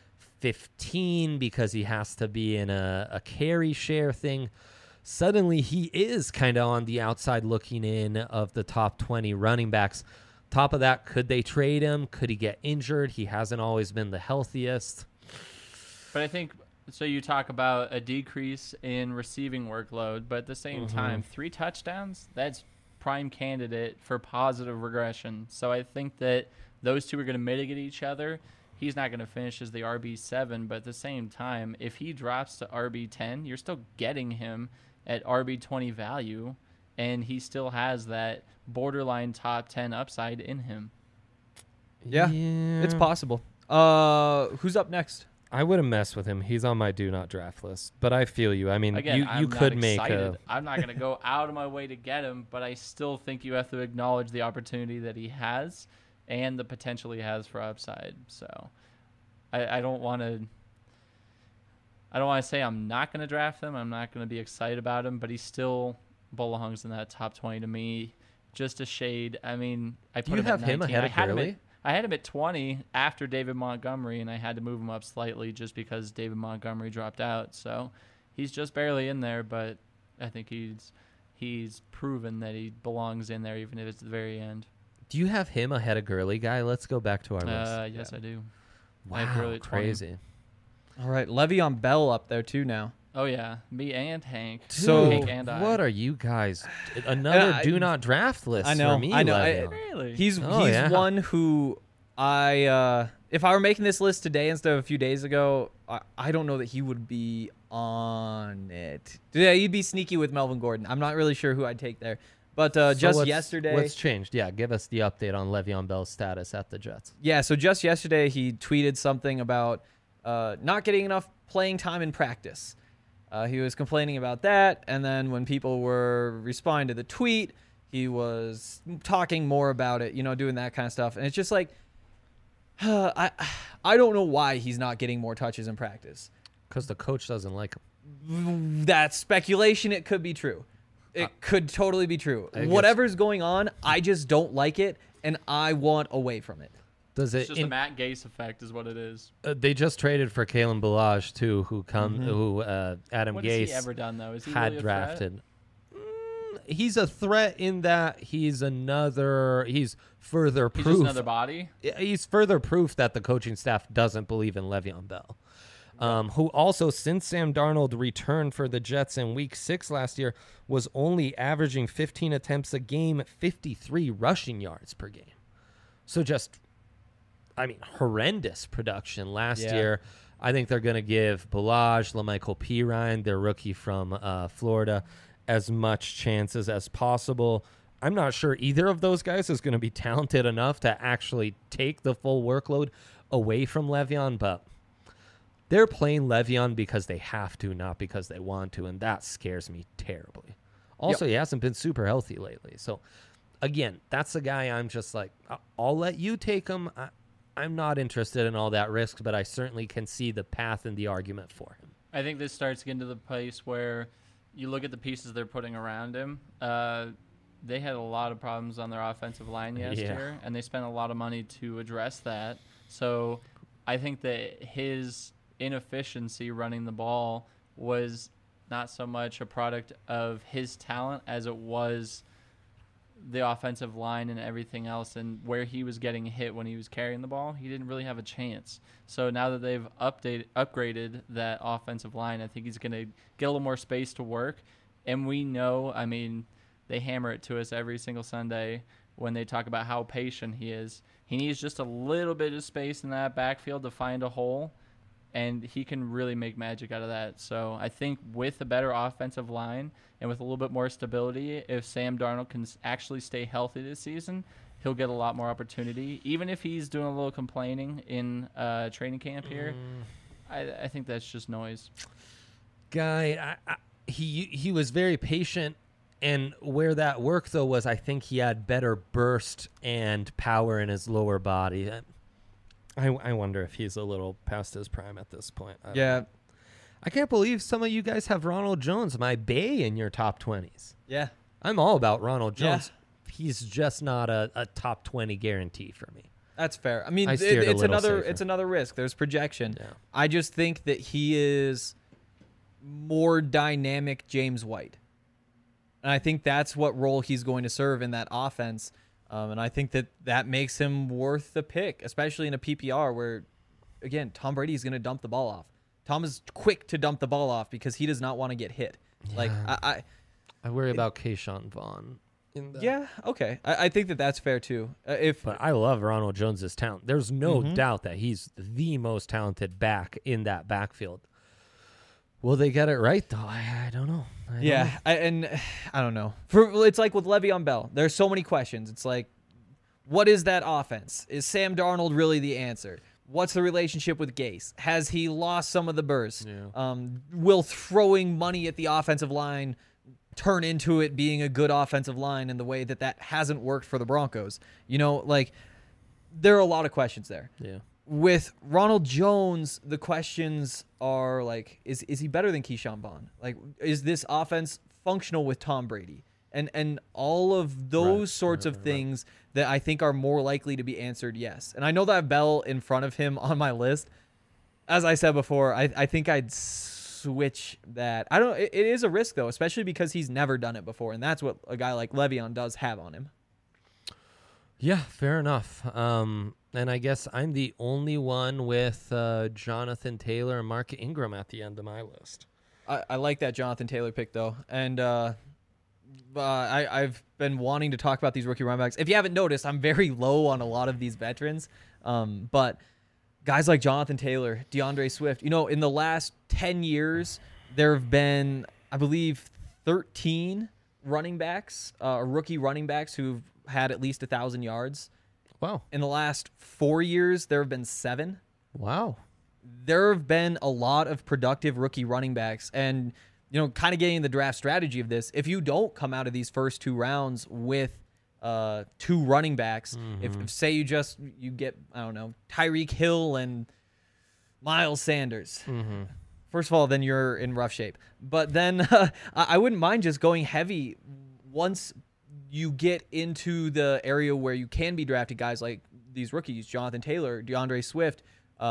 15 because he has to be in a carry share thing, suddenly he is kind of on the outside looking in of the top 20 running backs. Top of that, could they trade him? Could he get injured? He hasn't always been the healthiest. But I think, so you talk about a decrease in receiving workload, but at the same time, 3 touchdowns, that's prime candidate for positive regression. So I think that those two are going to mitigate each other. He's not going to finish as the RB7, but at the same time, if he drops to RB10, you're still getting him at RB20 value, and he still has that borderline top 10 upside in him. Yeah, it's possible. Who's up next? I wouldn't mess with him. He's on my do not draft list. But I feel you. I mean, again, you could make a... I'm not going to go out of my way to get him, but I still think you have to acknowledge the opportunity that he has and the potential he has for upside. So I don't want to... I don't want to say I'm not going to draft him. I'm not going to be excited about him, but he still belongs in that top 20 to me. Just a shade. I mean, I put you have him ahead of Gurley? I had him at 20 after David Montgomery, and I had to move him up slightly just because David Montgomery dropped out. So he's just barely in there, but I think he's proven that he belongs in there, even if it's the very end. Do you have him ahead of Gurley, Guy? Let's go back to our list. Yes, I do. Wow, I have Gurley at 20. crazy. All right, Le'Veon Bell up there too now. Oh yeah, me and Hank. So- Hank and I. What are you guys? Another do not draft list I know, for me. I know. Le'Veon. Really? He's Oh, yeah. one who if I were making this list today instead of a few days ago, I don't know that he would be on it. Yeah, he'd be sneaky with Melvin Gordon. I'm not really sure who I'd take there. But So just yesterday, what's changed? Yeah, give us the update on Le'Veon Bell's status at the Jets. yeah. So just yesterday, he tweeted something about not getting enough playing time in practice. He was complaining about that, and then when people were responding to the tweet, he was talking more about it, doing that kind of stuff. And it's just like, I don't know why he's not getting more touches in practice. Because the coach doesn't like him. That's speculation. It could be true. It could totally be true. I guess- Whatever's going on, I just don't like it, and I want away from it. Does It's it? just a Matt Gase effect, is what it is. They just traded for Kalen Ballage too, who Adam What has he Gase ever done though? Is he had really a threat? drafted. He's a threat in that he's further He's proof. just another body. He's further proof that the coaching staff doesn't believe in Le'Veon Bell. Who also, since Sam Darnold returned for the Jets in Week 6 last year, was only averaging 15 attempts a game, 53 rushing yards per game. So horrendous production last Yeah. year. I think they're going to give Ballage, LaMichael Pirine, their rookie from Florida, as much chances as possible. I'm not sure either of those guys is going to be talented enough to actually take the full workload away from Le'Veon, but they're playing Le'Veon because they have to, not because they want to, and that scares me terribly. Also, He hasn't been super healthy lately. So, again, that's the guy I'm just like, I'll let you take him. I'm not interested in all that risk, but I certainly can see the path and the argument for him. I think this starts getting to the place where you look at the pieces they're putting around him. They had a lot of problems on their offensive line year, and they spent a lot of money to address that. So I think that his inefficiency running the ball was not so much a product of his talent as it was the offensive line and everything else, and where he was getting hit when he was carrying the ball, he didn't really have a chance. So now that they've upgraded that offensive line, I think he's going to get a little more space to work. And we know, they hammer it to us every single Sunday when they talk about how patient he is. He needs just a little bit of space in that backfield to find a hole, and he can really make magic out of that. So I think with a better offensive line and with a little bit more stability, if Sam Darnold can actually stay healthy this season, he'll get a lot more opportunity. Even if he's doing a little complaining in training camp here, I think that's just noise. Guy, he was very patient, and where that worked, though, was I think he had better burst and power in his lower body. I wonder if he's a little past his prime at this point. I can't believe some of you guys have Ronald Jones, my Bay, in your top 20s. Yeah. I'm all about Ronald Jones. Yeah. He's just not a top 20 guarantee for me. That's fair. I mean, I steered a it's little another safer. it's another risk. There's projection. Yeah. I just think that he is more dynamic James White. And I think that's what role he's going to serve in that offense. And I think that makes him worth the pick, especially in a PPR where, again, Tom Brady is going to dump the ball off. Tom is quick to dump the ball off because he does not want to get hit. Yeah. Like I worry about Keyshawn Vaughn. Yeah, okay. I think that's fair too. But I love Ronald Jones's talent. There's no Mm-hmm. doubt that he's the most talented back in that backfield. Will they get it right though? I don't know. I don't know. It's like with Le'Veon Bell. There's so many questions. It's like, what is that offense? Is Sam Darnold really the answer? What's the relationship with Gase? Has he lost some of the burst? Yeah. Will throwing money at the offensive line turn into it being a good offensive line in the way that hasn't worked for the Broncos? There are a lot of questions there. Yeah. With Ronald Jones, the questions are like, is he better than Keyshawn Vaughn? Like, is this offense functional with Tom Brady? And all of those sorts of things that I think are more likely to be answered yes. And I know that I have Bell in front of him on my list. As I said before, I think I'd switch that. It is a risk, though, especially because he's never done it before. And that's what a guy like Le'Veon does have on him. Yeah, fair enough. And I guess I'm the only one with Jonathan Taylor and Mark Ingram at the end of my list. I like that Jonathan Taylor pick though, and I've been wanting to talk about these rookie running backs. If you haven't noticed, I'm very low on a lot of these veterans, but guys like Jonathan Taylor, DeAndre Swift. In the last 10 years, there have been, I believe, 13 running backs, rookie running backs who've had at least 1,000 yards. Wow. In the last 4 years, there have been 7. Wow. There have been a lot of productive rookie running backs, and kind of getting the draft strategy of this. If you don't come out of these first 2 rounds with 2 running backs, if say you get, I don't know, Tyreek Hill and Miles Sanders. First of all, then you're in rough shape. But then I wouldn't mind just going heavy once you get into the area where you can be drafted guys like these rookies, Jonathan Taylor, DeAndre Swift,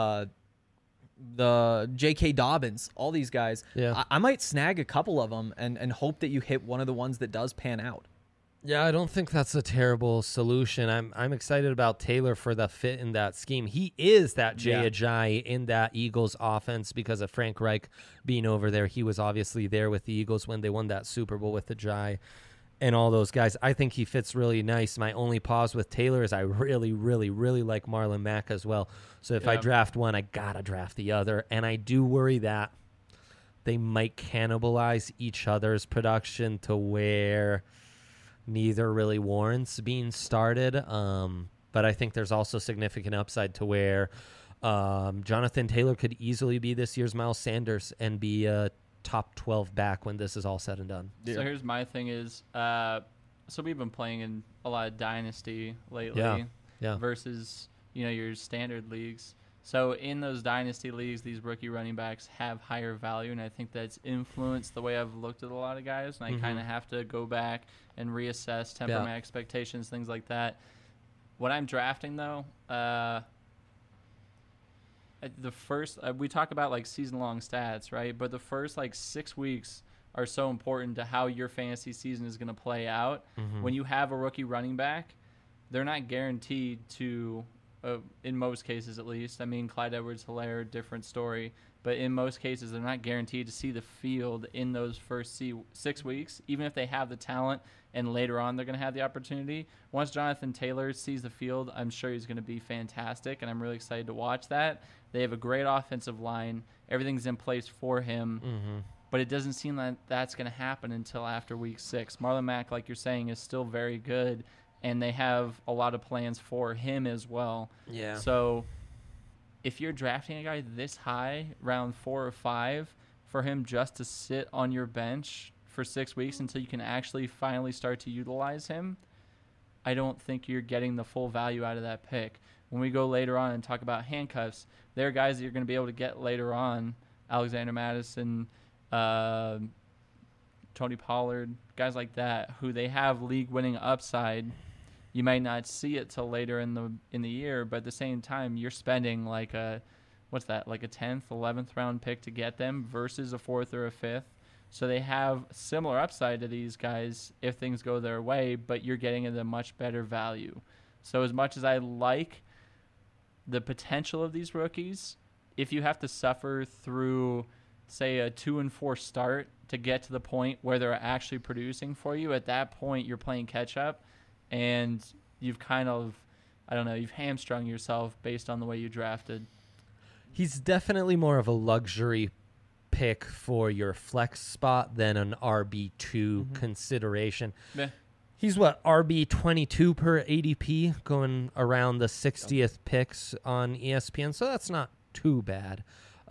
the J.K. Dobbins, all these guys. Yeah. I might snag a couple of them and hope that you hit one of the ones that does pan out. Yeah, I don't think that's a terrible solution. I'm excited about Taylor for the fit in that scheme. He is that Jay Ajayi in that Eagles offense because of Frank Reich being over there. He was obviously there with the Eagles when they won that Super Bowl with Ajayi and all those guys. I think he fits really nice. My only pause with Taylor is I really, really, really like Marlon Mack as well. So if I draft one, I got to draft the other. And I do worry that they might cannibalize each other's production to where neither really warrants being started. But I think there's also significant upside to where Jonathan Taylor could easily be this year's Miles Sanders and be a top 12 back when this is all said and done. So here's my thing is, so we've been playing in a lot of Dynasty lately versus, your standard leagues. So in those Dynasty leagues, these rookie running backs have higher value, and I think that's influenced the way I've looked at a lot of guys, and I kind of have to go back and reassess, temper my expectations, things like that. When I'm drafting, though, the first we talk about like season-long stats, right? But the first 6 weeks are so important to how your fantasy season is going to play out. When you have a rookie running back, they're not guaranteed to, in most cases at least. I mean, Clyde Edwards-Helaire, different story. But in most cases, they're not guaranteed to see the field in those first 6 weeks, even if they have the talent and later on they're going to have the opportunity. Once Jonathan Taylor sees the field, I'm sure he's going to be fantastic, and I'm really excited to watch that. They have a great offensive line. Everything's in place for him, but it doesn't seem like that's going to happen until after week 6. Marlon Mack, like you're saying, is still very good, and they have a lot of plans for him as well. Yeah. So if you're drafting a guy this high, round 4 or 5, for him just to sit on your bench for 6 weeks until you can actually finally start to utilize him, I don't think you're getting the full value out of that pick. When we go later on and talk about handcuffs, there are guys that you're going to be able to get later on, Alexander Madison, Tony Pollard, guys like that, who they have league-winning upside. You might not see it till later in the year, but at the same time, you're spending like a 10th, 11th round pick to get them versus a 4th or a 5th. So they have similar upside to these guys if things go their way, but you're getting at a much better value. So as much as I like the potential of these rookies, if you have to suffer through, say, a 2-4 start to get to the point where they're actually producing for you, at that point you're playing catch up, and you've kind of, you've hamstrung yourself based on the way you drafted. He's definitely more of a luxury pick for your flex spot than an RB2 consideration. Yeah. He's RB22 per ADP, going around the 60th picks on ESPN, so that's not too bad.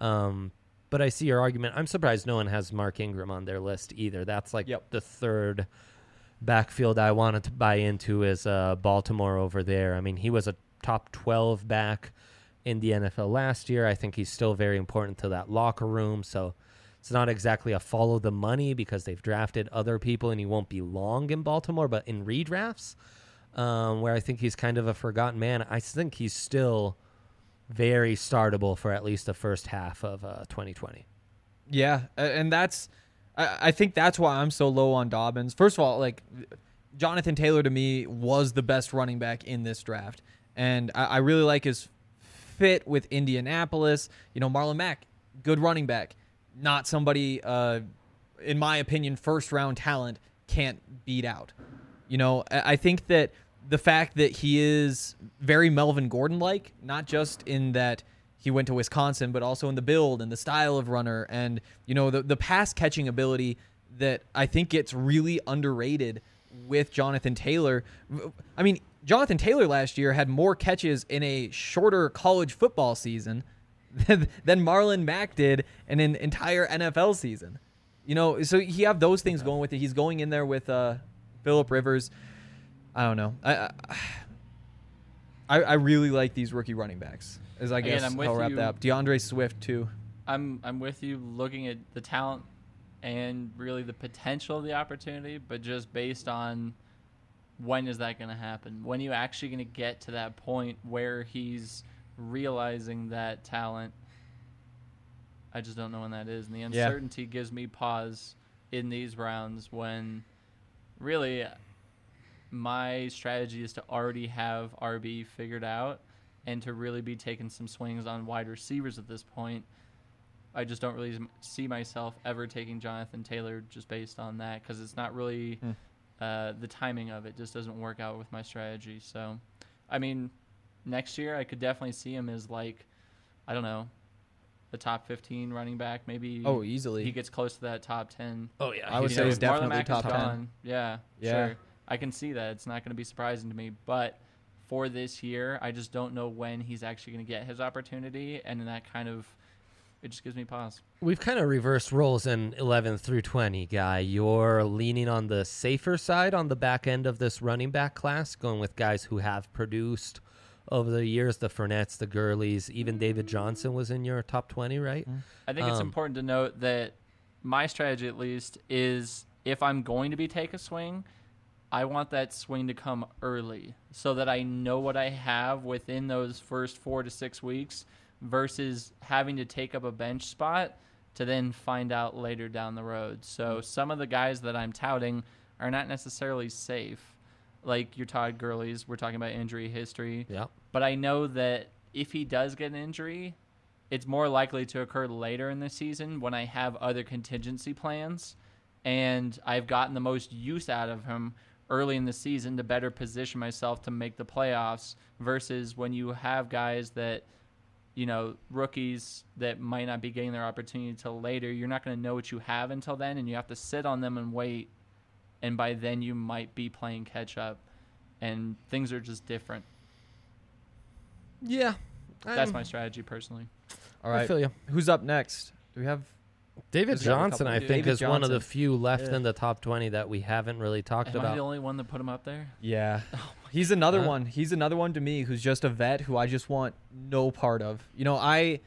But I see your argument. I'm surprised no one has Mark Ingram on their list either. That's the third backfield I wanted to buy into is Baltimore over there. I mean, he was a top 12 back in the NFL last year. I think he's still very important to that locker room, so it's not exactly a follow the money because they've drafted other people and he won't be long in Baltimore, but in redrafts, where I think he's kind of a forgotten man, I think he's still very startable for at least the first half of 2020. Yeah, and I think that's why I'm so low on Dobbins. First of all, Jonathan Taylor to me was the best running back in this draft, and I really like his fit with Indianapolis. Marlon Mack, good running back. not somebody, in my opinion, first round talent can't beat out. You know, I think that the fact that he is very Melvin Gordon-like, not just in that he went to Wisconsin, but also in the build and the style of runner and, you know, the pass catching ability that I think gets really underrated with Jonathan Taylor. I mean, Jonathan Taylor last year had more catches in a shorter college football season than Marlon Mack did in an entire NFL season. You know, so you have those things going with it. He's going in there with Phillip Rivers. I don't know. I really like these rookie running backs. As I guess Again, I'll wrap that up. DeAndre Swift too. I'm with you looking at the talent and really the potential of the opportunity, but just based on when is that going to happen? When are you actually going to get to that point where he's realizing that talent? I just don't know when that is. And the uncertainty gives me pause in these rounds when really my strategy is to already have RB figured out and to really be taking some swings on wide receivers at this point. I just don't really see myself ever taking Jonathan Taylor just based on that because it's not really the timing of it just doesn't work out with my strategy. So, I mean, next year I could definitely see him as like, I don't know, the top 15 running back. Maybe easily he gets close to that top 10. Oh, yeah. I would say he's Marlon definitely Mack top is 10. gone. Yeah, sure. I can see that. It's not going to be surprising to me. But for this year, I just don't know when he's actually going to get his opportunity. And that kind of, it just gives me pause. We've kind of reversed roles in 11 through 20, Guy. You're leaning on the safer side on the back end of this running back class, going with guys who have produced over the years, the Fournettes, the Gurleys, even David Johnson was in your top 20, right? I think it's important to note that my strategy, at least, is if I'm going to take a swing, I want that swing to come early so that I know what I have within those first 4 to 6 weeks versus having to take up a bench spot to then find out later down the road. So some of the guys that I'm touting are not necessarily safe. Like your Todd Gurley's, we're talking about injury history. Yeah. But I know that if he does get an injury, it's more likely to occur later in the season when I have other contingency plans and I've gotten the most use out of him early in the season to better position myself to make the playoffs versus when you have guys that, you know, rookies that might not be getting their opportunity until later. You're not going to know what you have until then, and you have to sit on them and wait. And by then, you might be playing catch up, and things are just different. Yeah. That's my strategy personally. All right. I feel you. Who's up next? Do we have David There's got a Johnson, couple- I think, David is one of the Johnson. few left in the top 20 that we haven't really talked Am I the about. only one that put him up there? Yeah. He's another Huh? one. He's another one to me who's just a vet who I just want no part of. You know,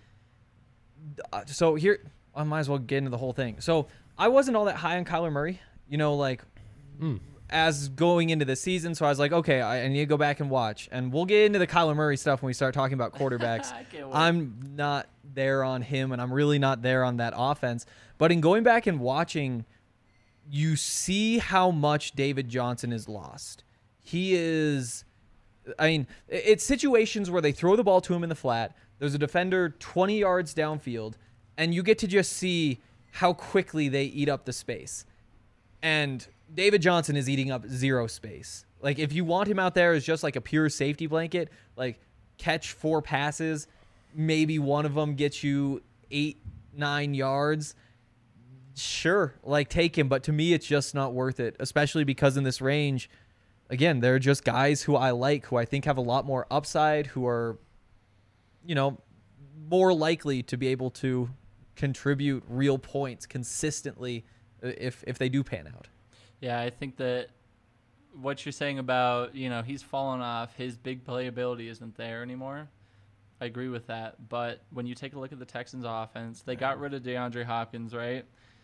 so here, I might as well get into the whole thing. So I wasn't all that high on Kyler Murray, you know, like as going into the season. So I was like, okay, I need to go back and watch. And we'll get into the Kyler Murray stuff when we start talking about quarterbacks. I can't wait. I'm not there on him, and I'm really not there on that offense. But in going back and watching, you see how much David Johnson is lost. He is, I mean, it's situations where they throw the ball to him in the flat. There's a defender 20 yards downfield, and you get to just see how quickly they eat up the space. And David Johnson is eating up zero space. Like, if you want him out there as just like a pure safety blanket, like catch 4 passes, maybe one of them gets you 8-9 yards, sure, like take him. But to me, it's just not worth it, especially because in this range, again, they're just guys who I like, who I think have a lot more upside, who are, you know, more likely to be able to contribute real points consistently if they do pan out. Yeah, I think that what you're saying about, you know, he's fallen off, his big playability isn't there anymore. I agree with that. But when you take a look at the Texans offense, they got rid of DeAndre Hopkins, right?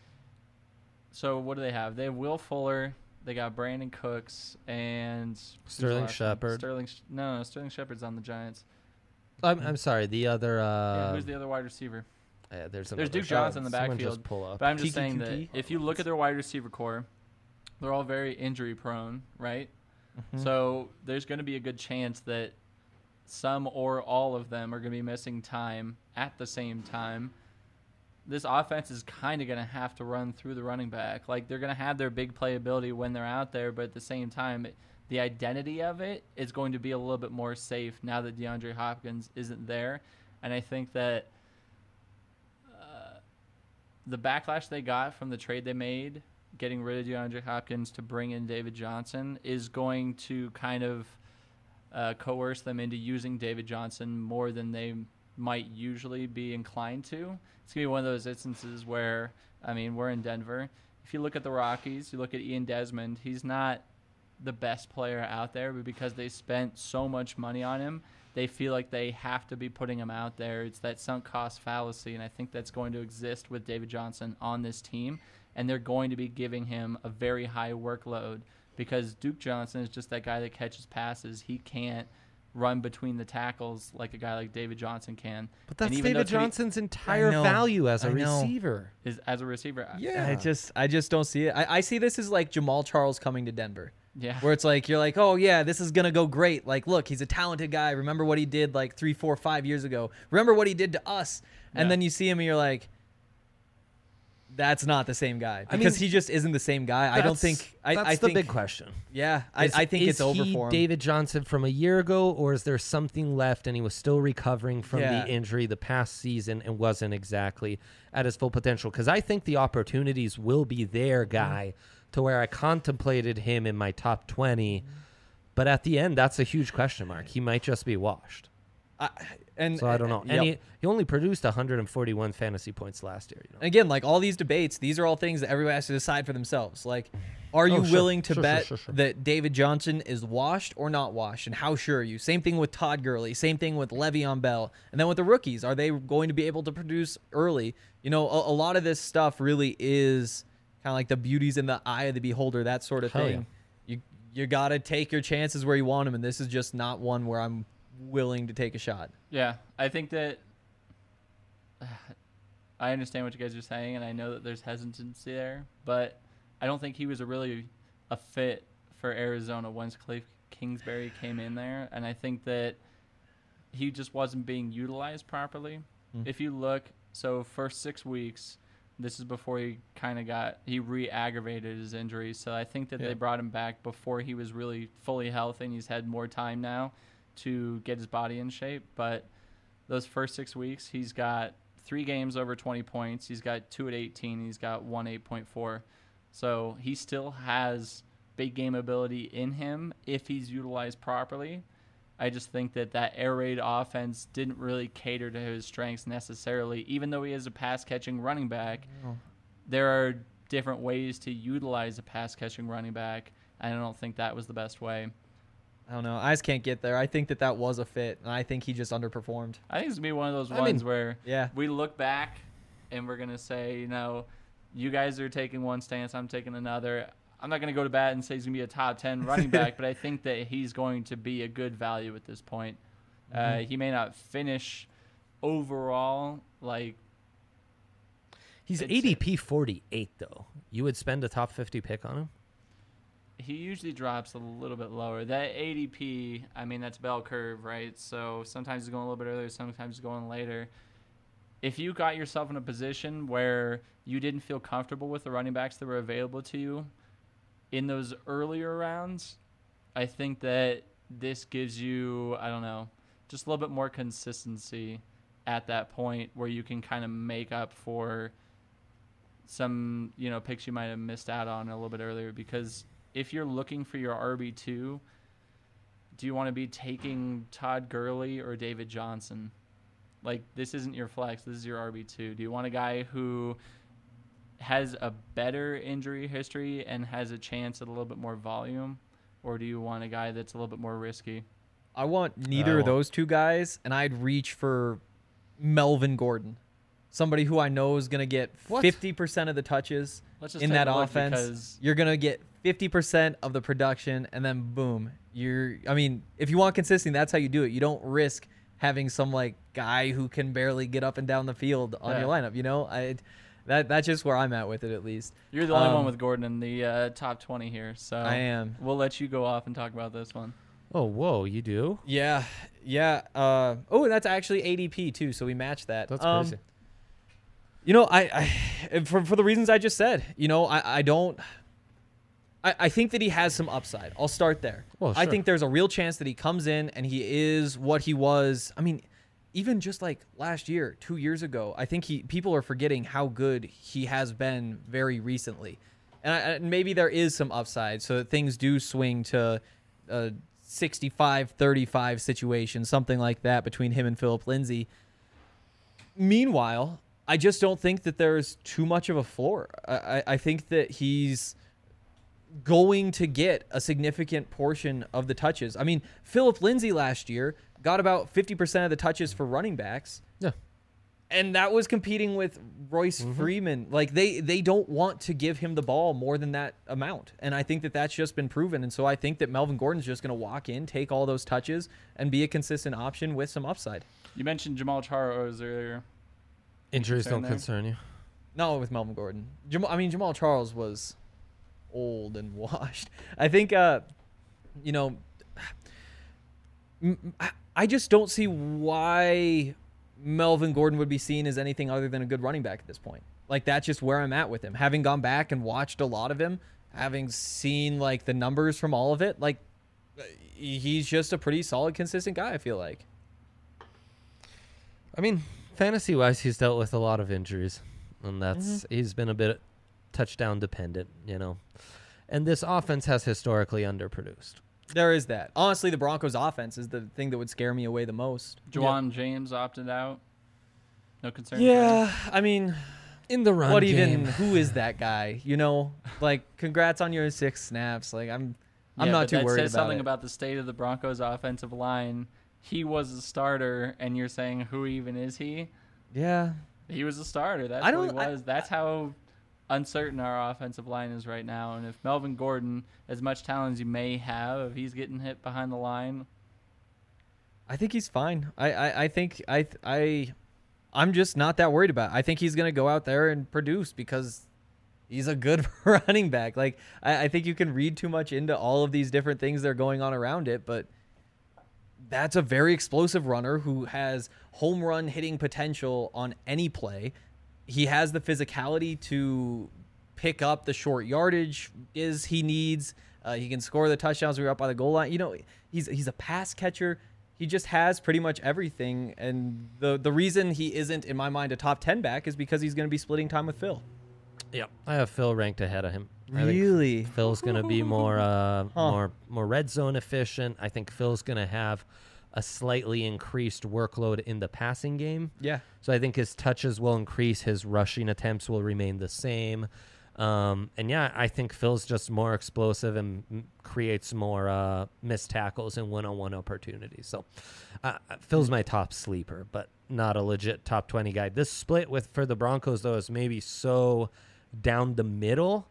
So what do they have? They have Will Fuller. They got Brandon Cooks and Sterling Shepard. No, Sterling Shepard's on the Giants. I'm sorry. The other. Yeah, who's the other wide receiver? There's Duke Johnson in the Someone backfield. Just pull up. But I'm just Kiki saying QT? that if you look at their wide receiver core, they're all very injury prone, right? Mm-hmm. So there's going to be a good chance that some or all of them are going to be missing time at the same time. this offense is kind of going to have to run through the running back. Like, they're going to have their big playability when they're out there, but at the same time, the identity of it is going to be a little bit more safe now that DeAndre Hopkins isn't there. And I think that the backlash they got from the trade they made, getting rid of DeAndre Hopkins to bring in David Johnson, is going to kind of coerce them into using David Johnson more than they might usually be inclined to. It's going to be one of those instances where, I mean, we're in Denver. If you look at the Rockies, you look at Ian Desmond, he's not the best player out there, but because they spent so much money on him, they feel like they have to be putting him out there. It's that sunk cost fallacy, and I think that's going to exist with David Johnson on this team, and they're going to be giving him a very high workload because Duke Johnson is just that guy that catches passes. He can't run between the tackles like a guy like David Johnson can. But that's David Johnson's entire value as a receiver. As a receiver. Yeah. I just don't see it. I see this as like Jamal Charles coming to Denver. Yeah. Where it's like, you're like, oh, yeah, this is going to go great. Like, look, he's a talented guy. Remember what he did like 3, 4, 5 years ago. Remember what he did to us. And then you see him and you're like, that's not the same guy. Because he just isn't the same guy. I don't think. That's the big question. Yeah. I think it's over for him. David Johnson from a year ago, or is there something left and he was still recovering from the injury the past season and wasn't exactly at his full potential? Because I think the opportunities will be there, Guy, to where I contemplated him in my top 20. But at the end, that's a huge question mark. He might just be washed. So I don't know. And he only produced 141 fantasy points last year. You know? Again, like all these debates, these are all things that everybody has to decide for themselves. Like, are you willing to bet that David Johnson is washed or not washed? And how sure are you? Same thing with Todd Gurley. Same thing with Le'Veon Bell. And then with the rookies, are they going to be able to produce early? You know, a lot of this stuff really is kind of like the beauty's in the eye of the beholder, that sort of thing. Yeah. You got to take your chances where you want them, and this is just not one where I'm willing to take a shot. Yeah, I think that I understand what you guys are saying, and I know that there's hesitancy there, but I don't think he was really a fit for Arizona once Cliff Kingsbury came in there, and I think that he just wasn't being utilized properly. If you look, so first 6 weeks, this is before he he re-aggravated his injury, so I think that they brought him back before he was really fully healthy, and he's had more time now to get his body in shape. But those first 6 weeks, he's got 3 games over 20 points. He's got 2 at 18. He's got 1 8.4. So he still has big game ability in him if he's utilized properly. I just think that air raid offense didn't really cater to his strengths necessarily. Even though he is a pass-catching running back, there are different ways to utilize a pass-catching running back. I don't think that was the best way. I don't know. I just can't get there. I think that was a fit, and I think he just underperformed. I think it's going to be one of those ones where we look back and we're going to say, you know, you guys are taking one stance, I'm taking another. I'm not going to go to bat and say he's going to be a top 10 running back, but I think that he's going to be a good value at this point. He may not finish overall like. He's ADP 48, though. You would spend a top 50 pick on him? He usually drops a little bit lower. That ADP, I mean, that's bell curve, right? So sometimes he's going a little bit earlier, sometimes he's going later. If you got yourself in a position where you didn't feel comfortable with the running backs that were available to you in those earlier rounds, I think that this gives you, I don't know, just a little bit more consistency at that point where you can kind of make up for some, you know, picks you might have missed out on a little bit earlier. Because if you're looking for your RB2, do you want to be taking Todd Gurley or David Johnson? Like, this isn't your flex. This is your RB2. Do you want a guy who has a better injury history and has a chance at a little bit more volume? Or do you want a guy that's a little bit more risky? I want neither of those two guys, and I'd reach for Melvin Gordon. Somebody who I know is going to get 50% of the touches in that offense. You're going to get 50% of the production, and then boom. If you want consistency, that's how you do it. You don't risk having some like guy who can barely get up and down the field on your lineup. You know, that's just where I'm at with it, at least. You're the only one with Gordon in the top 20 here, so I am. We'll let you go off and talk about this one. Oh, whoa, you do? Yeah. And that's actually ADP too, so we matched that. That's crazy. You know, for the reasons I just said, you know, I think that he has some upside. I'll start there. Well, I sure. think there's a real chance that he comes in and he is what he was. I mean, even just like last year, 2 years ago, I think people are forgetting how good he has been very recently. And maybe there is some upside so that things do swing to a 65-35 situation, something like that between him and Philip Lindsay. Meanwhile, I just don't think that there's too much of a floor. I think that he's going to get a significant portion of the touches. I mean, Philip Lindsay last year got about 50% of the touches for running backs. Yeah. And that was competing with Royce Freeman. Like, they don't want to give him the ball more than that amount. And I think that that's just been proven. And so I think that Melvin Gordon's just going to walk in, take all those touches, and be a consistent option with some upside. You mentioned Jamal Charles earlier. Injuries concern don't there? concern you. No, with Melvin Gordon. Jamal Charles was old and washed. I think, you know, I just don't see why Melvin Gordon would be seen as anything other than a good running back at this point. Like, that's just where I'm at with him. Having gone back and watched a lot of him, having seen like the numbers from all of it, like he's just a pretty solid, consistent guy, I feel like. I mean, fantasy-wise, he's dealt with a lot of injuries, and he's been a bit touchdown dependent, you know. And this offense has historically underproduced. There is that. Honestly, the Broncos' offense is the thing that would scare me away the most. Juwan James opted out. No concern. Yeah, I mean, In the run what game. even? Who is that guy? You know, like, congrats on your 6 snaps. Like, I'm not too worried That says about something it. about the state of the Broncos' offensive line. He was a starter, and you're saying, who even is he? Yeah, He was a starter. That's I what he don't- I- was. That's how uncertain our offensive line is right now. And if Melvin Gordon, as much talent as he may have, if he's getting hit behind the line, I think he's fine. I'm just not that worried about it. I think he's gonna go out there and produce because he's a good running back. Like, I think you can read too much into all of these different things that are going on around it, but that's a very explosive runner who has home run hitting potential on any play. He has the physicality to pick up the short yardage as he needs. He can score the touchdowns when you're up by the goal line. You know, he's a pass catcher. He just has pretty much everything. And the reason he isn't, in my mind, a top 10 back is because he's going to be splitting time with Phil. Yep. I have Phil ranked ahead of him. I think Really? Phil's going to be more red zone efficient. I think Phil's going to have a slightly increased workload in the passing game. Yeah. So I think his touches will increase. His rushing attempts will remain the same. And yeah, I think Phil's just more explosive and creates more missed tackles and one-on-one opportunities. So Phil's my top sleeper, but not a legit top 20 guy. This split for the Broncos, though, is maybe so down the middle,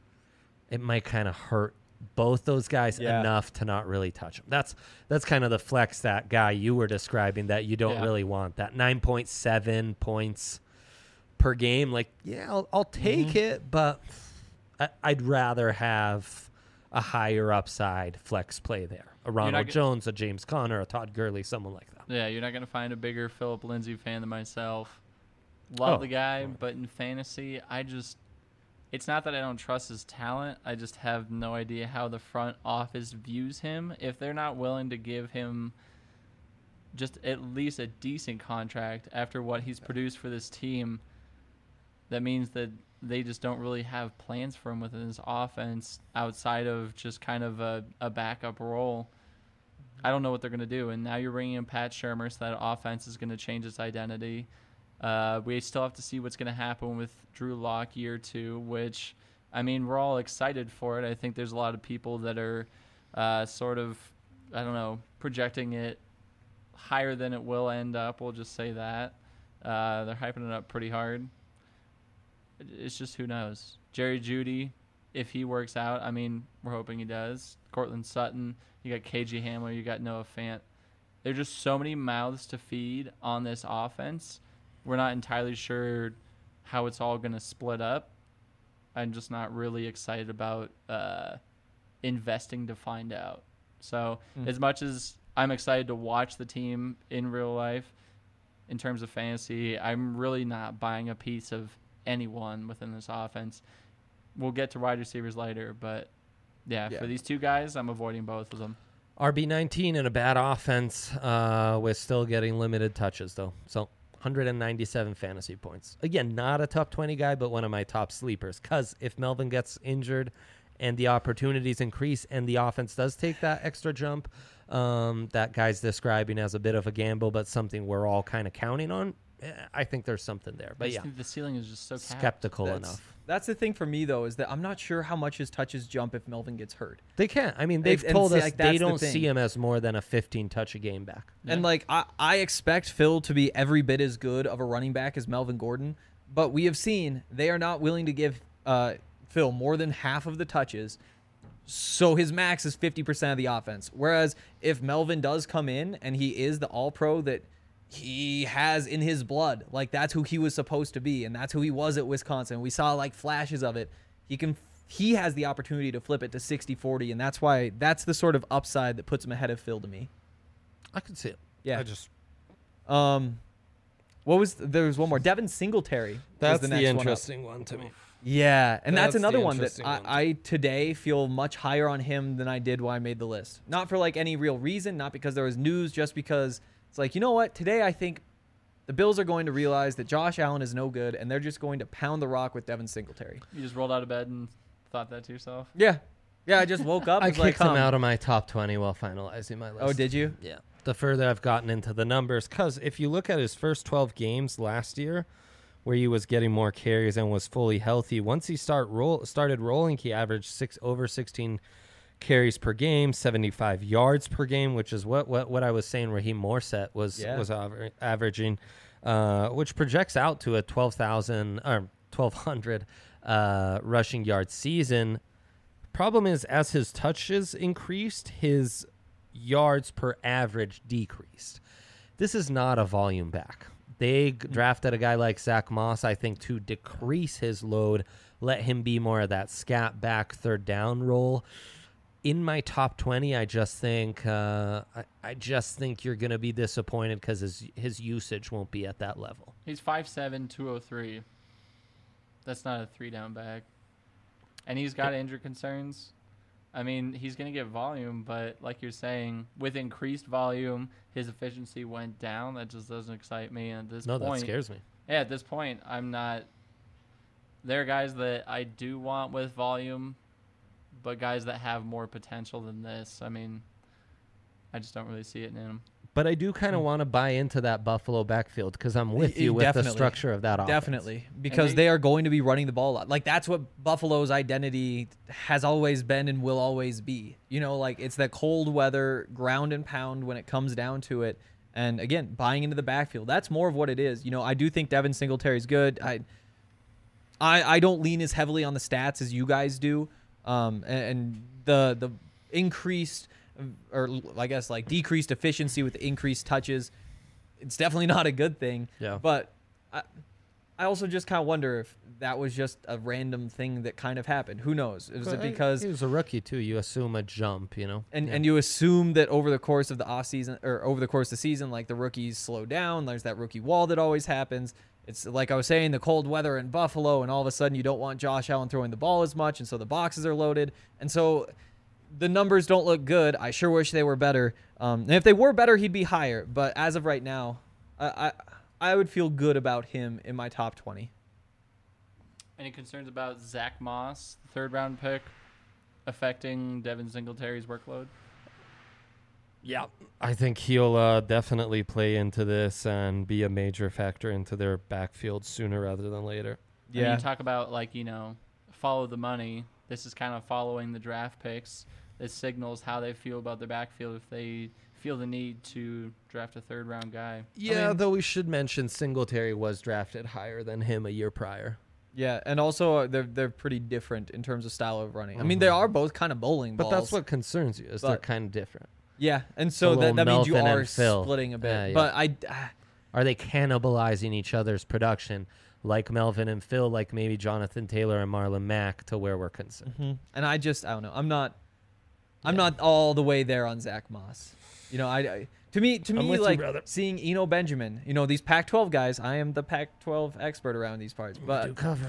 it might kind of hurt both those guys enough to not really touch them. That's kind of the flex that guy you were describing that you don't really want. That 9.7 points per game. Like, yeah, I'll take it, but I'd rather have a higher upside flex play there. A Ronald Jones, a James Conner, a Todd Gurley, someone like that. yeah, you're not going to find a bigger Philip Lindsay fan than myself. Love the guy, but in fantasy, it's not that I don't trust his talent. I just have no idea how the front office views him. If they're not willing to give him just at least a decent contract after what he's produced for this team, that means that they just don't really have plans for him within his offense outside of just kind of a backup role. I don't know what they're going to do. And now you're bringing in Pat Shurmur, so that offense is going to change its identity. We still have to see what's going to happen with Drew Lock year 2, which, I mean, we're all excited for it. I think there's a lot of people that are sort of, I don't know, projecting it higher than it will end up. We'll just say that. They're hyping it up pretty hard. It's just who knows. Jerry Jeudy, if he works out, I mean, we're hoping he does. Cortland Sutton, you got KJ Hamler, you got Noah Fant. There's just so many mouths to feed on this offense. We're not entirely sure how it's all going to split up. I'm just not really excited about investing to find out. So as much as I'm excited to watch the team in real life, in terms of fantasy. I'm really not buying a piece of anyone within this offense. We'll get to wide receivers later, but yeah, for these two guys, I'm avoiding both of them. RB19 in a bad offense. We're still getting limited touches, though. So 197 fantasy points. Again, not a top 20 guy, but one of my top sleepers. Because if Melvin gets injured and the opportunities increase and the offense does take that extra jump, that guy's describing as a bit of a gamble, but something we're all kind of counting on, I think there's something there. But yeah, the ceiling is just so capped. Skeptical enough. That's the thing for me, though, is that I'm not sure how much his touches jump if Melvin gets hurt. They can't. I mean, they've And told see, us like, they that's the don't thing. see him as more than a 15-touch-a-game back. And, like, I expect Phil to be every bit as good of a running back as Melvin Gordon, but we have seen they are not willing to give Phil more than half of the touches, so his max is 50% of the offense. Whereas if Melvin does come in and he is the all-pro that he has in his blood, like that's who he was supposed to be, and that's who he was at Wisconsin. We saw like flashes of it. He has the opportunity to flip it to 60-40, and that's the sort of upside that puts him ahead of Phil to me. I could see it. Yeah. I just There was one more. Devin Singletary. was that's the the, next one up. interesting one to me. Yeah, and that's That's another the one that interesting one. I today feel much higher on him than I did when I made the list. Not for like any real reason, not because there was news, just because it's like, you know what? Today I think the Bills are going to realize that Josh Allen is no good, and they're just going to pound the rock with Devin Singletary. You just rolled out of bed and thought that to yourself? Yeah. I just woke up. I was like, kicked him out of my top 20 while finalizing my list. Oh, did you? Yeah. The further I've gotten into the numbers, because if you look at his first 12 games last year, where he was getting more carries and was fully healthy, once he started rolling, he averaged over 16 carries per game, 75 yards per game, which is what I was saying Raheem Morset was averaging, which projects out to a 1,200 rushing yard season. Problem is, as his touches increased, his yards per average decreased. This is not a volume back. They drafted a guy like Zach Moss, I think, to decrease his load, let him be more of that scat back third down role. In my top 20, I just think you're going to be disappointed because his usage won't be at that level. He's 5'7", 203. That's not a 3-down back. And he's got injury concerns. I mean, he's going to get volume, but like you're saying, with increased volume, his efficiency went down. That just doesn't excite me. And at this point, that scares me. Yeah, at this point, I'm not. There are guys that I do want with volume, but guys that have more potential than this. I mean, I just don't really see it in him. But I do kind of want to buy into that Buffalo backfield because I'm with you with the structure of that offense. Definitely, because they are going to be running the ball a lot. Like, that's what Buffalo's identity has always been and will always be. You know, like, it's that cold weather, ground and pound when it comes down to it. And, again, buying into the backfield. That's more of what it is. You know, I do think Devin Singletary's good. I don't lean as heavily on the stats as you guys do. And the increased, or I guess like decreased efficiency with increased touches, it's definitely not a good thing. Yeah. But I also just kind of wonder if that was just a random thing that kind of happened. Who knows? Was it because he was a rookie too? You assume a jump, you know, and you assume that over the course of the off season or over the course of the season, like the rookies slow down. There's that rookie wall that always happens. It's like I was saying, the cold weather in Buffalo, and all of a sudden you don't want Josh Allen throwing the ball as much, and so the boxes are loaded, and so the numbers don't look good. I sure wish they were better. And if they were better, he'd be higher. But as of right now, I would feel good about him in my top 20. Any concerns about Zach Moss, the third-round pick, affecting Devin Singletary's workload? Yeah, I think he'll definitely play into this and be a major factor into their backfield sooner rather than later. Yeah. I mean, you talk about, like, you know, follow the money. This is kind of following the draft picks. This signals how they feel about their backfield if they feel the need to draft a third-round guy. Yeah, though we should mention Singletary was drafted higher than him a year prior. Yeah, and also they're pretty different in terms of style of running. I mean, they are both kind of bowling balls. But that's what concerns you, is they're kind of different. Yeah, and so that means you Melvin are and Phil. splitting a bit. Yeah. But are they cannibalizing each other's production like Melvin and Phil, like maybe Jonathan Taylor and Marlon Mack, to where we're concerned? Mm-hmm. And I don't know. I'm not all the way there on Zach Moss. You know, To me, I'm with you, like brother. seeing Eno Benjamin, these Pac-12 guys. I am the Pac-12 expert around these parts, Do but cover.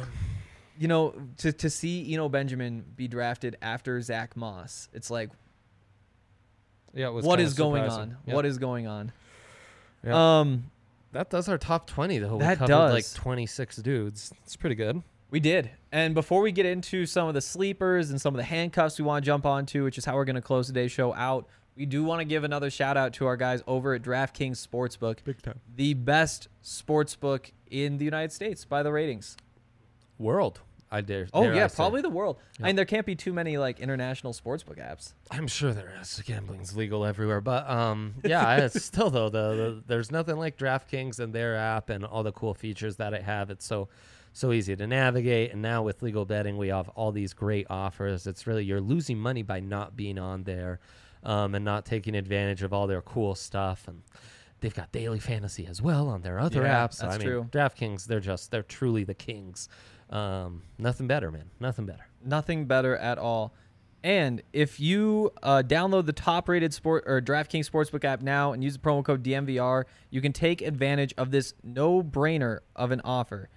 to see Eno Benjamin be drafted after Zach Moss, it's like, Yeah, it was what kinda is going surprising. on? Yeah. What is going on? Yeah. That does our top 20, though. That we covered does. like 26 dudes. It's pretty good. We did. And before we get into some of the sleepers and some of the handcuffs we want to jump onto, which is how we're going to close today's show out, we do want to give another shout out to our guys over at DraftKings Sportsbook, Big time. the best sportsbook in the United States by the ratings. World, I dare. Oh, dare yeah, I say. probably the world. Yeah. I mean, there can't be too many like international sportsbook apps. I'm sure there is. Gambling's legal everywhere, but yeah, it's still though there's nothing like DraftKings and their app and all the cool features that it have. It's so easy to navigate, and now with legal betting, we have all these great offers. It's really you're losing money by not being on there, and not taking advantage of all their cool stuff. And they've got daily fantasy as well on their other Yeah, apps. So, that's I mean, true. DraftKings, they're truly the kings. Nothing better, man. Nothing better. Nothing better at all. And if you download the top-rated DraftKings Sportsbook app now and use the promo code DMVR, you can take advantage of this no-brainer of an offer.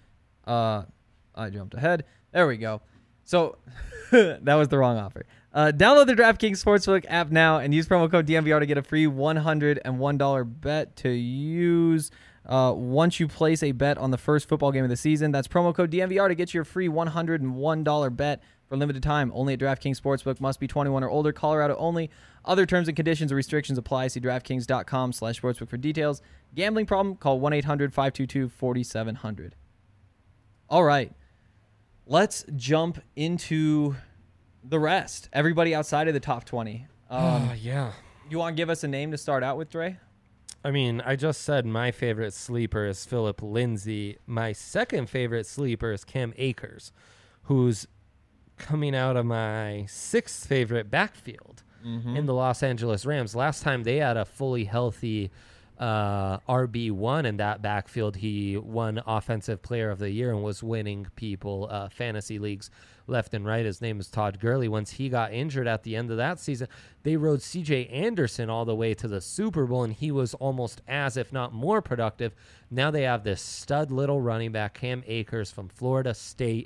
I jumped ahead. There we go. So that was the wrong offer. Download the DraftKings Sportsbook app now and use promo code DMVR to get a free $101 bet to use once you place a bet on the first football game of the season. That's promo code DMVR to get your free $101 bet for limited time. Only at DraftKings Sportsbook. Must be 21 or older. Colorado only. Other terms and conditions and restrictions apply. See DraftKings.com/sportsbook for details. Gambling problem? Call 1-800-522-4700. All right. Let's jump into the rest. Everybody outside of the top 20. Yeah. You want to give us a name to start out with, Dre? I mean, I just said my favorite sleeper is Philip Lindsay. My second favorite sleeper is Cam Akers, who's coming out of my sixth favorite backfield in the Los Angeles Rams. Last time they had a fully healthy RB1 in that backfield, he won Offensive Player of the Year and was winning people fantasy leagues left and right. His name is Todd Gurley. Once he got injured at the end of that season, they rode CJ Anderson all the way to the Super Bowl, and he was almost as, if not more, productive. Now they have this stud little running back, Cam Akers from Florida State.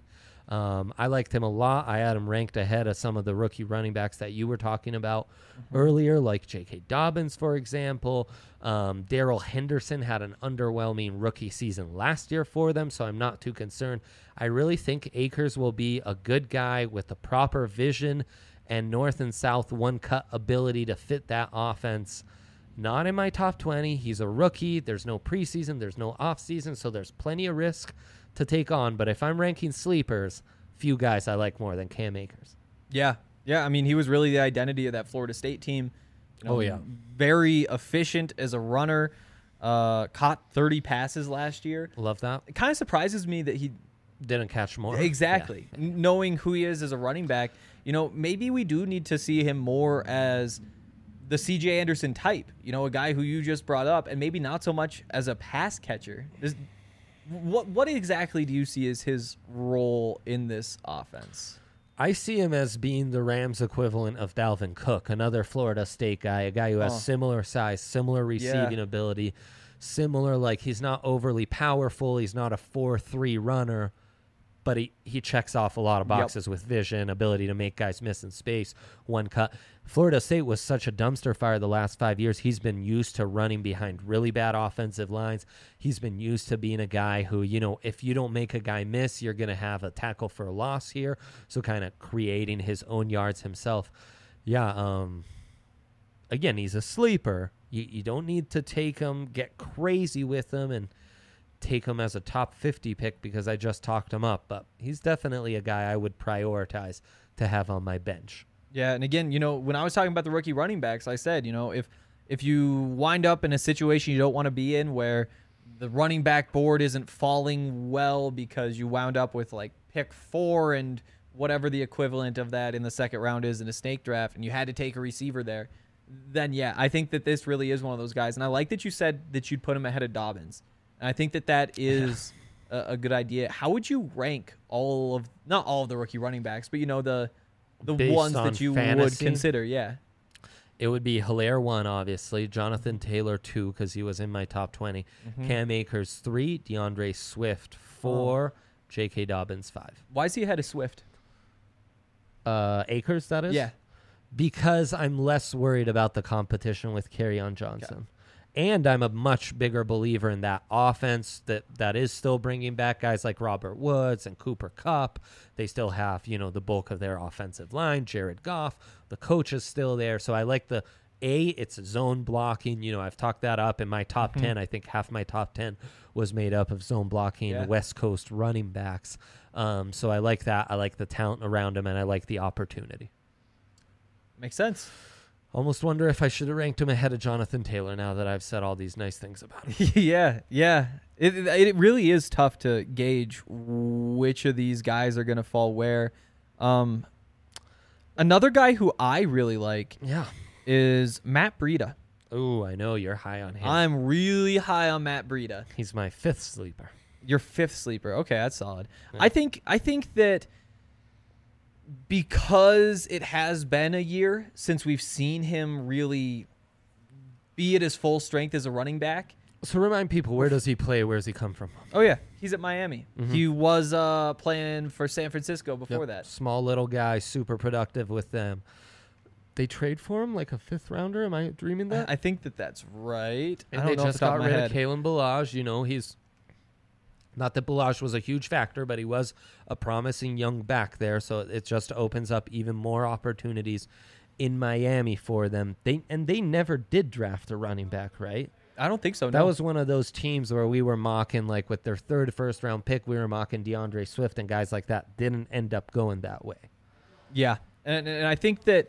I liked him a lot. I had him ranked ahead of some of the rookie running backs that you were talking about earlier, like J.K. Dobbins, for example. Darrell Henderson had an underwhelming rookie season last year for them, so I'm not too concerned. I really think Akers will be a good guy with the proper vision and north and south one-cut ability to fit that offense. Not in my top 20. He's a rookie. There's no preseason. There's no offseason, so there's plenty of risk to take on. But if I'm ranking sleepers, few guys I like more than Cam Akers. Yeah. Yeah, I mean, he was really the identity of that Florida State team. Oh, yeah. Very efficient as a runner. Caught 30 passes last year. Love that. It kind of surprises me that he... Didn't catch more. Exactly. Yeah. Knowing who he is as a running back, maybe we do need to see him more as the C.J. Anderson type, a guy who you just brought up, and maybe not so much as a pass catcher. What exactly do you see as his role in this offense? I see him as being the Rams equivalent of Dalvin Cook, another Florida State guy, a guy who has similar size, similar receiving ability, similar, he's not overly powerful. He's not a 4-3 runner, but he checks off a lot of boxes with vision, ability to make guys miss in space, one cut. Florida State was such a dumpster fire the last 5 years. He's been used to running behind really bad offensive lines. He's been used to being a guy who, if you don't make a guy miss, you're going to have a tackle for a loss here. So kind of creating his own yards himself. Yeah, again, he's a sleeper. You don't need to take him, get crazy with him, and take him as a top 50 pick because I just talked him up. But he's definitely a guy I would prioritize to have on my bench. Yeah, and again, when I was talking about the rookie running backs, I said, if you wind up in a situation you don't want to be in where the running back board isn't falling well because you wound up with pick 4 and whatever the equivalent of that in the second round is in a snake draft, and you had to take a receiver there, then yeah, I think that this really is one of those guys. And I like that you said that you'd put him ahead of Dobbins. And I think that is a good idea. How would you rank not all of the rookie running backs, but the Based ones on that you fantasy? would consider? Yeah. It would be Hilaire 1, obviously. Jonathan Taylor 2, because he was in my top 20. Cam Akers 3. DeAndre Swift 4. J.K. Dobbins 5. Why is he ahead of Swift? Akers, that is? Yeah. Because I'm less worried about the competition with Kerryon Johnson. And I'm a much bigger believer in that offense that is still bringing back guys like Robert Woods and Cooper Kupp. They still have, the bulk of their offensive line, Jared Goff. The coach is still there. So I like it's zone blocking. I've talked that up in my top 10. I think half my top 10 was made up of zone blocking West Coast running backs. So I like that. I like the talent around him, and I like the opportunity. Makes sense. Almost wonder if I should have ranked him ahead of Jonathan Taylor now that I've said all these nice things about him. Yeah. It really is tough to gauge which of these guys are going to fall where. Another guy who I really like is Matt Breida. Oh, I know you're high on him. I'm really high on Matt Breida. He's my 5th sleeper. Your 5th sleeper. Okay, that's solid. Yeah. I think that because it has been a year since we've seen him really be at his full strength as a running back. So remind people, where does he play? Where does he come from? Oh, yeah. He's at Miami. He was playing for San Francisco before that. Small little guy, super productive with them. They trade for him like a 5th rounder. Am I dreaming that? I think that's right. And I don't they know just off the top got of my rid head. of Kalen Ballage. He's not that Ballage was a huge factor, but he was a promising young back there. So it just opens up even more opportunities in Miami for them. They never did draft a running back, right? I don't think so. That no. was one of those teams where we were mocking, like with their 3rd first-round pick, we were mocking DeAndre Swift and guys like that. Didn't end up going that way. Yeah, and I think that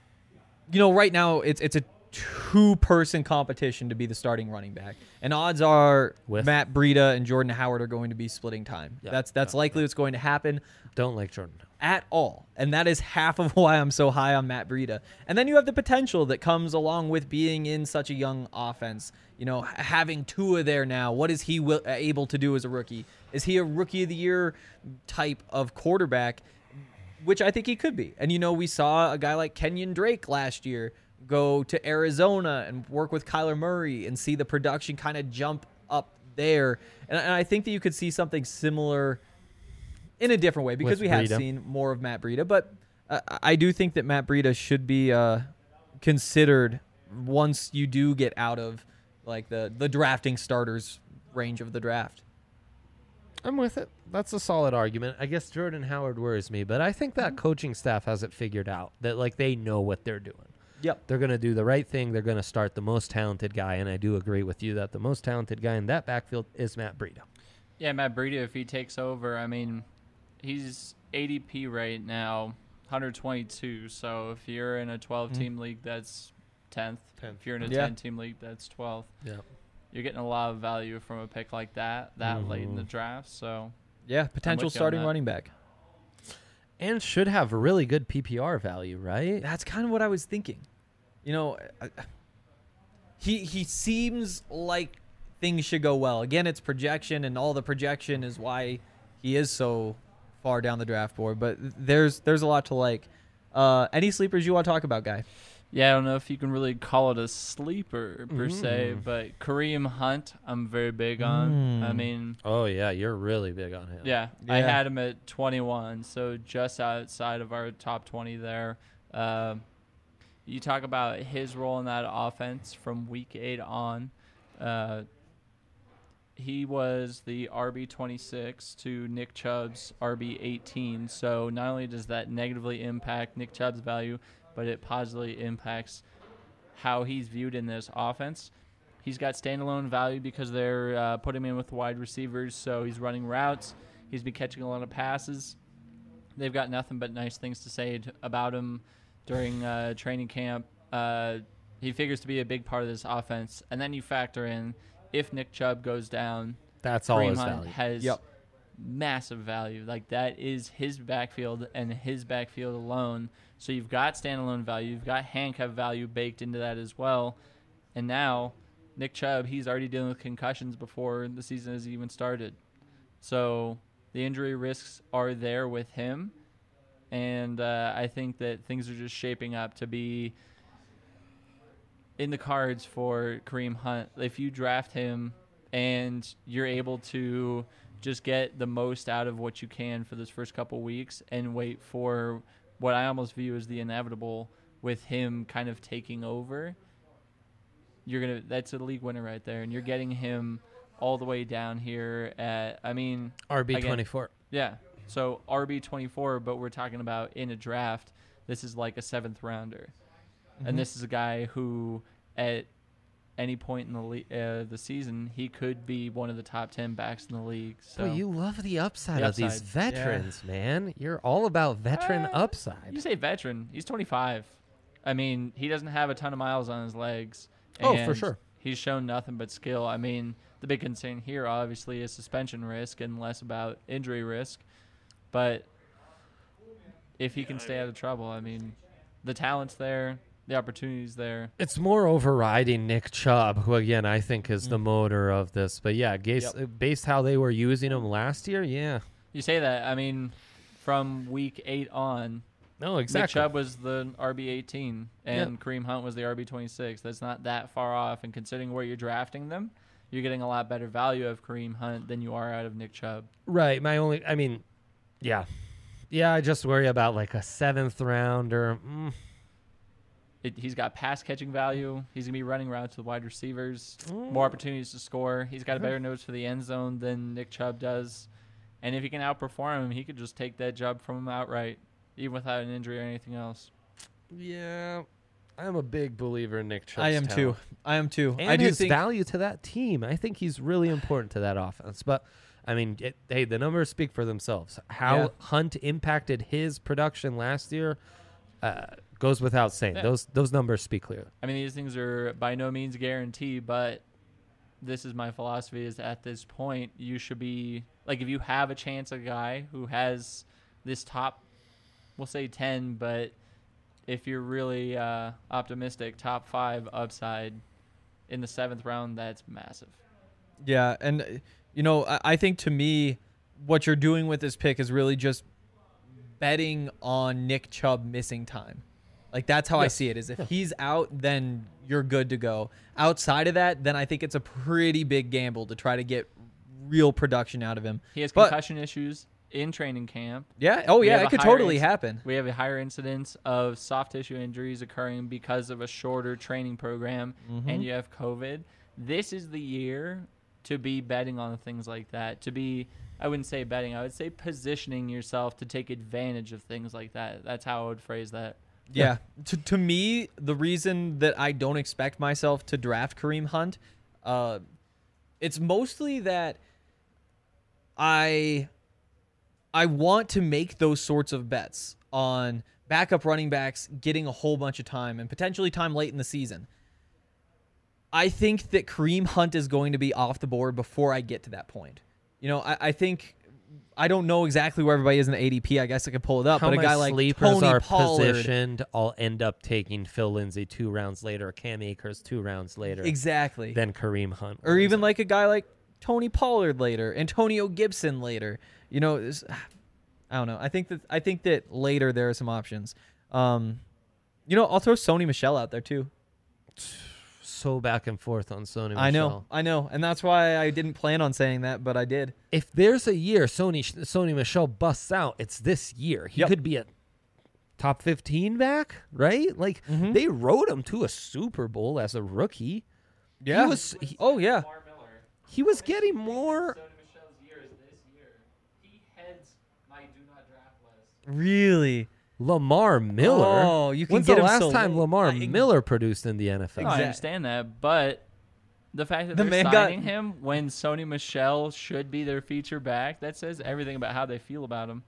right now it's a 2-person competition to be the starting running back, and odds are Matt Breida and Jordan Howard are going to be splitting time. Yeah, That's likely what's going to happen. Don't like Jordan at all. And that is half of why I'm so high on Matt Breida. And then you have the potential that comes along with being in such a young offense. Having Tua there now, what is he able to do as a rookie? Is he a rookie of the year type of quarterback, which I think he could be. And, we saw a guy like Kenyon Drake last year go to Arizona and work with Kyler Murray and see the production kind of jump up there. And I think that you could see something similar in a different way because we have seen more of Matt Breida. But I do think that Matt Breida should be considered once you do get out of like the drafting starters range of the draft. I'm with it. That's a solid argument. I guess Jordan Howard worries me, but I think that coaching staff has it figured out that they know what they're doing. Yep. They're going to do the right thing. They're going to start the most talented guy, and I do agree with you that the most talented guy in that backfield is Matt Breida. Yeah, Matt Breida, if he takes over, he's ADP right now, 122. So if you're in a 12-team league, that's 10th. If you're in a 10-team league, that's 12th. Yeah. You're getting a lot of value from a pick like that late in the draft. So yeah, potential starting running back. And should have really good PPR value, right? That's kind of what I was thinking. He seems like things should go well. Again, it's projection, and all the projection is why he is so far down the draft board. But there's a lot to like. Any sleepers you want to talk about, Guy? Yeah, I don't know if you can really call it a sleeper per se, but Kareem Hunt, I'm very big on. Oh yeah, you're really big on him. Yeah, I had him at 21, so just outside of our top 20 there. You talk about his role in that offense from week 8 on. He was the RB26 to Nick Chubb's RB18. So not only does that negatively impact Nick Chubb's value, but it positively impacts how he's viewed in this offense. He's got standalone value because they're putting him in with wide receivers, so he's running routes. He's been catching a lot of passes. They've got nothing but nice things to say about him during training camp. He figures to be a big part of this offense. And then you factor in if Nick Chubb goes down, that's all his Hunt value. Has massive value. Like, that is his backfield and his backfield alone. So you've got standalone value. You've got handcuff value baked into that as well. And now Nick Chubb, he's already dealing with concussions before the season has even started. So the injury risks are there with him. And I think that things are just shaping up to be in the cards for Kareem Hunt if you draft him and you're able to just get the most out of what you can for this first couple weeks and wait for what I almost view as the inevitable with him kind of taking over. That's a league winner right there, and you're getting him all the way down here at RB24. Yeah. So RB24, but we're talking about in a draft, this is like a 7th rounder. Mm-hmm. And this is a guy who at any point in the season, he could be one of the top 10 backs in the league. So Boy, you love the upside The of these upside. veterans, man. You're all about veteran upside. You say veteran. He's 25. I mean, he doesn't have a ton of miles on his legs. Oh, for and sure. He's shown nothing but skill. I mean, the big concern here obviously is suspension risk and less about injury risk. But if he can stay out of trouble, I mean, the talent's there, the opportunity's there. It's more overriding Nick Chubb, who, again, I think is the motor of this. But, yeah, based how they were using him last year, yeah. You say that. I mean, from week 8 on, No, exactly. Nick Chubb was the RB18 and Kareem Hunt was the RB26. That's not that far off. And considering where you're drafting them, you're getting a lot better value of Kareem Hunt than you are out of Nick Chubb. Right. Yeah. Yeah, I just worry about like a 7th rounder. He's got pass catching value. He's going to be running routes to the wide receivers, more opportunities to score. He's got a better nose for the end zone than Nick Chubb does. And if he can outperform him, he could just take that job from him outright, even without an injury or anything else. Yeah. I'm a big believer in Nick Chubb's I am talent. too. I am too. And I do his think value to that team. I think he's really important to that offense. But, I mean, hey, the numbers speak for themselves. How Hunt impacted his production last year goes without saying. Yeah. Those numbers speak clearly. I mean, these things are by no means guaranteed, but this is my philosophy is at this point, you should be, like, if you have a chance, a guy who has this top, we'll say 10, but if you're really optimistic, top 5 upside in the 7th round, that's massive. Yeah, and I think to me, what you're doing with this pick is really just betting on Nick Chubb missing time. Like, that's how I see it, is if he's out, then you're good to go. Outside of that, then I think it's a pretty big gamble to try to get real production out of him. He has concussion issues in training camp. Yeah. Oh, yeah, it could totally happen. We have a higher incidence of soft tissue injuries occurring because of a shorter training program, and you have COVID. This is the year to be betting on things like that, to be, I wouldn't say betting, I would say positioning yourself to take advantage of things like that. That's how I would phrase that. Yeah. To me, the reason that I don't expect myself to draft Kareem Hunt, it's mostly that I want to make those sorts of bets on backup running backs getting a whole bunch of time and potentially time late in the season. I think that Kareem Hunt is going to be off the board before I get to that point. I think, I don't know exactly where everybody is in the ADP. I guess I could pull it up. How but a guy like sleepers Tony are Pollard, positioned, I'll end up taking Phil Lindsay 2 rounds later, Cam Akers 2 rounds later. exactly. Then Kareem Hunt. Or even like a guy like Tony Pollard later, Antonio Gibson later. I don't know. I think that later there are some options. I'll throw Sony Michel out there too. So back and forth on Sony Michel. I know. And that's why I didn't plan on saying that, but I did. If there's a year Sony Michel busts out, it's this year. He could be a top 15 back, right? Like, they rode him to a Super Bowl as a rookie. Yeah. Lamar Miller. He was getting more. Sony Michel's year is this year. He heads my do not draft list. Really? Lamar Miller. Oh, you can When's get the him last so time late? Lamar Miller produced in the NFL? No, I understand that, but the fact that The they're man signing him when Sony Michel should be their feature back, that says everything about how they feel about him.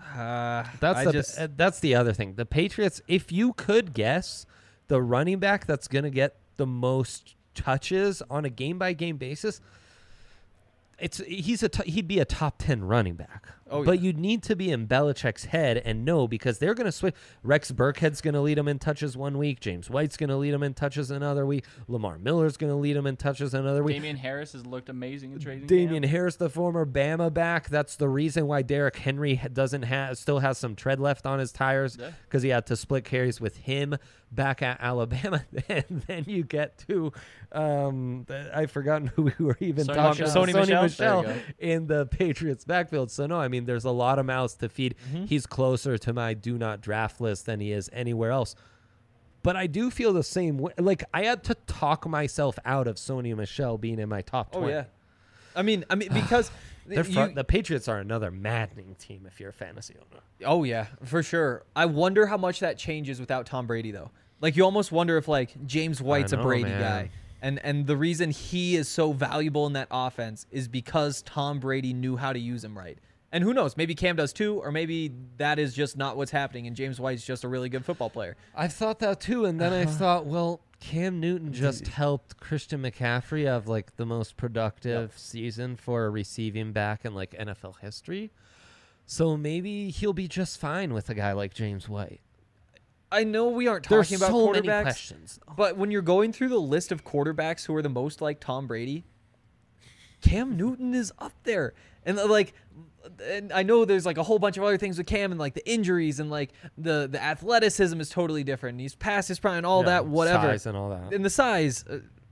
That's the other thing. The Patriots, if you could guess the running back that's going to get the most touches on a game-by-game basis, he'd be a top 10 running back. Oh, but yeah. you'd need to be in Belichick's head and know, because they're going to switch. Rex Burkhead's going to lead him in touches one week. James White's going to lead him in touches another week. Lamar Miller's going to lead him in touches another week. Damian Harris has looked amazing in trading Damian camp. Harris, the former Bama back. That's the reason why Derrick Henry still has some tread left on his tires, Yeah. because he had to split carries with him back at Alabama. And then you get to I've forgotten who we were even Sony talking Michel. about. Sony Michel There you in the Patriots backfield. So no, I mean, there's a lot of mouths to feed. He's closer to my do not draft list than he is anywhere else. But I do feel the same way. Like, I had to talk myself out of Sony Michel being in my top 20. Oh yeah, I mean because The Patriots are another maddening team if you're a fantasy owner. Oh yeah, for sure. I wonder how much that changes without Tom Brady though. Like you almost wonder if like James White's know, a Brady man. guy. And the reason he is so valuable in that offense is because Tom Brady knew how to use him right. And who knows, maybe Cam does too, or maybe that is just not what's happening and James White's just a really good football player. I've thought that too, and then I thought, well, Cam Newton just helped Christian McCaffrey have like the most productive season for a receiving back in like NFL history. So maybe he'll be just fine with a guy like James White. I know we aren't There's talking about so many quarterbacks, questions. but when you're going through the list of quarterbacks who are the most like Tom Brady, Cam Newton is up there. And I know there's like a whole bunch of other things with Cam and like the injuries and like the athleticism is totally different. And he's past his prime and all that, whatever. Size and all that. And the size,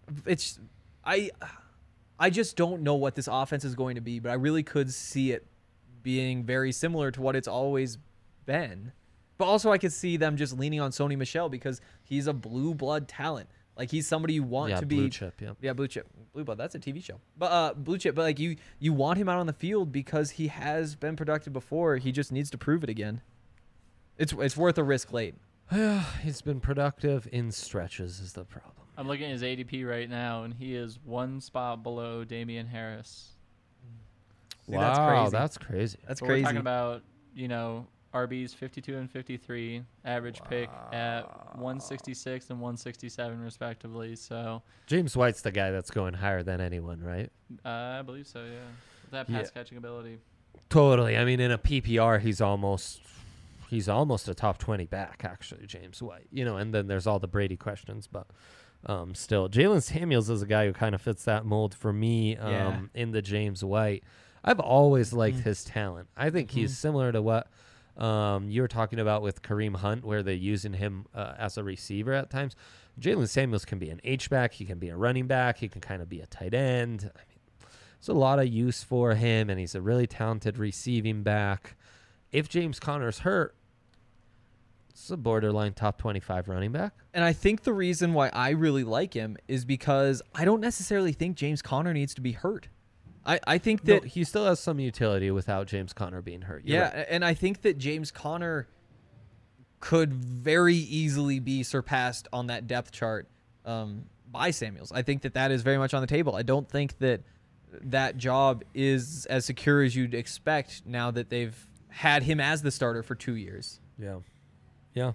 I just don't know what this offense is going to be, but I really could see it being very similar to what it's always been. But also I could see them just leaning on Sony Michel because he's a blue blood talent. Like he's somebody you want to be blue chip, yeah. Yeah, blue chip. Blue blood, that's a TV show. But blue chip, but like you want him out on the field because he has been productive before. He just needs to prove it again. It's worth a risk late. He's been productive in stretches is the problem. I'm looking at his ADP right now, and he is one spot below Damian Harris. See, that's crazy. That's crazy. That's But crazy. We're talking about, RBs 52 and 53, average pick at 166 and 167 respectively. So James White's the guy that's going higher than anyone, right? I believe so, yeah. With that pass catching ability. Totally. I mean, in a PPR, he's almost a top 20 back, actually, James White. And then there's all the Brady questions, but still, Jalen Samuels is a guy who kind of fits that mold for me in the James White. I've always liked his talent. I think he's similar to what you were talking about with Kareem Hunt, where they're using him as a receiver at times. Jalen Samuels can be an H-back. He can be a running back. He can kind of be a tight end. I mean, there's a lot of use for him, and he's a really talented receiving back. If James Conner's hurt, it's a borderline top 25 running back. And I think the reason why I really like him is because I don't necessarily think James Conner needs to be hurt. I think that he still has some utility without James Conner being hurt. You're right. and I think that James Conner could very easily be surpassed on that depth chart by Samuels. I think that is very much on the table. I don't think that job is as secure as you'd expect now that they've had him as the starter for 2 years. Yeah.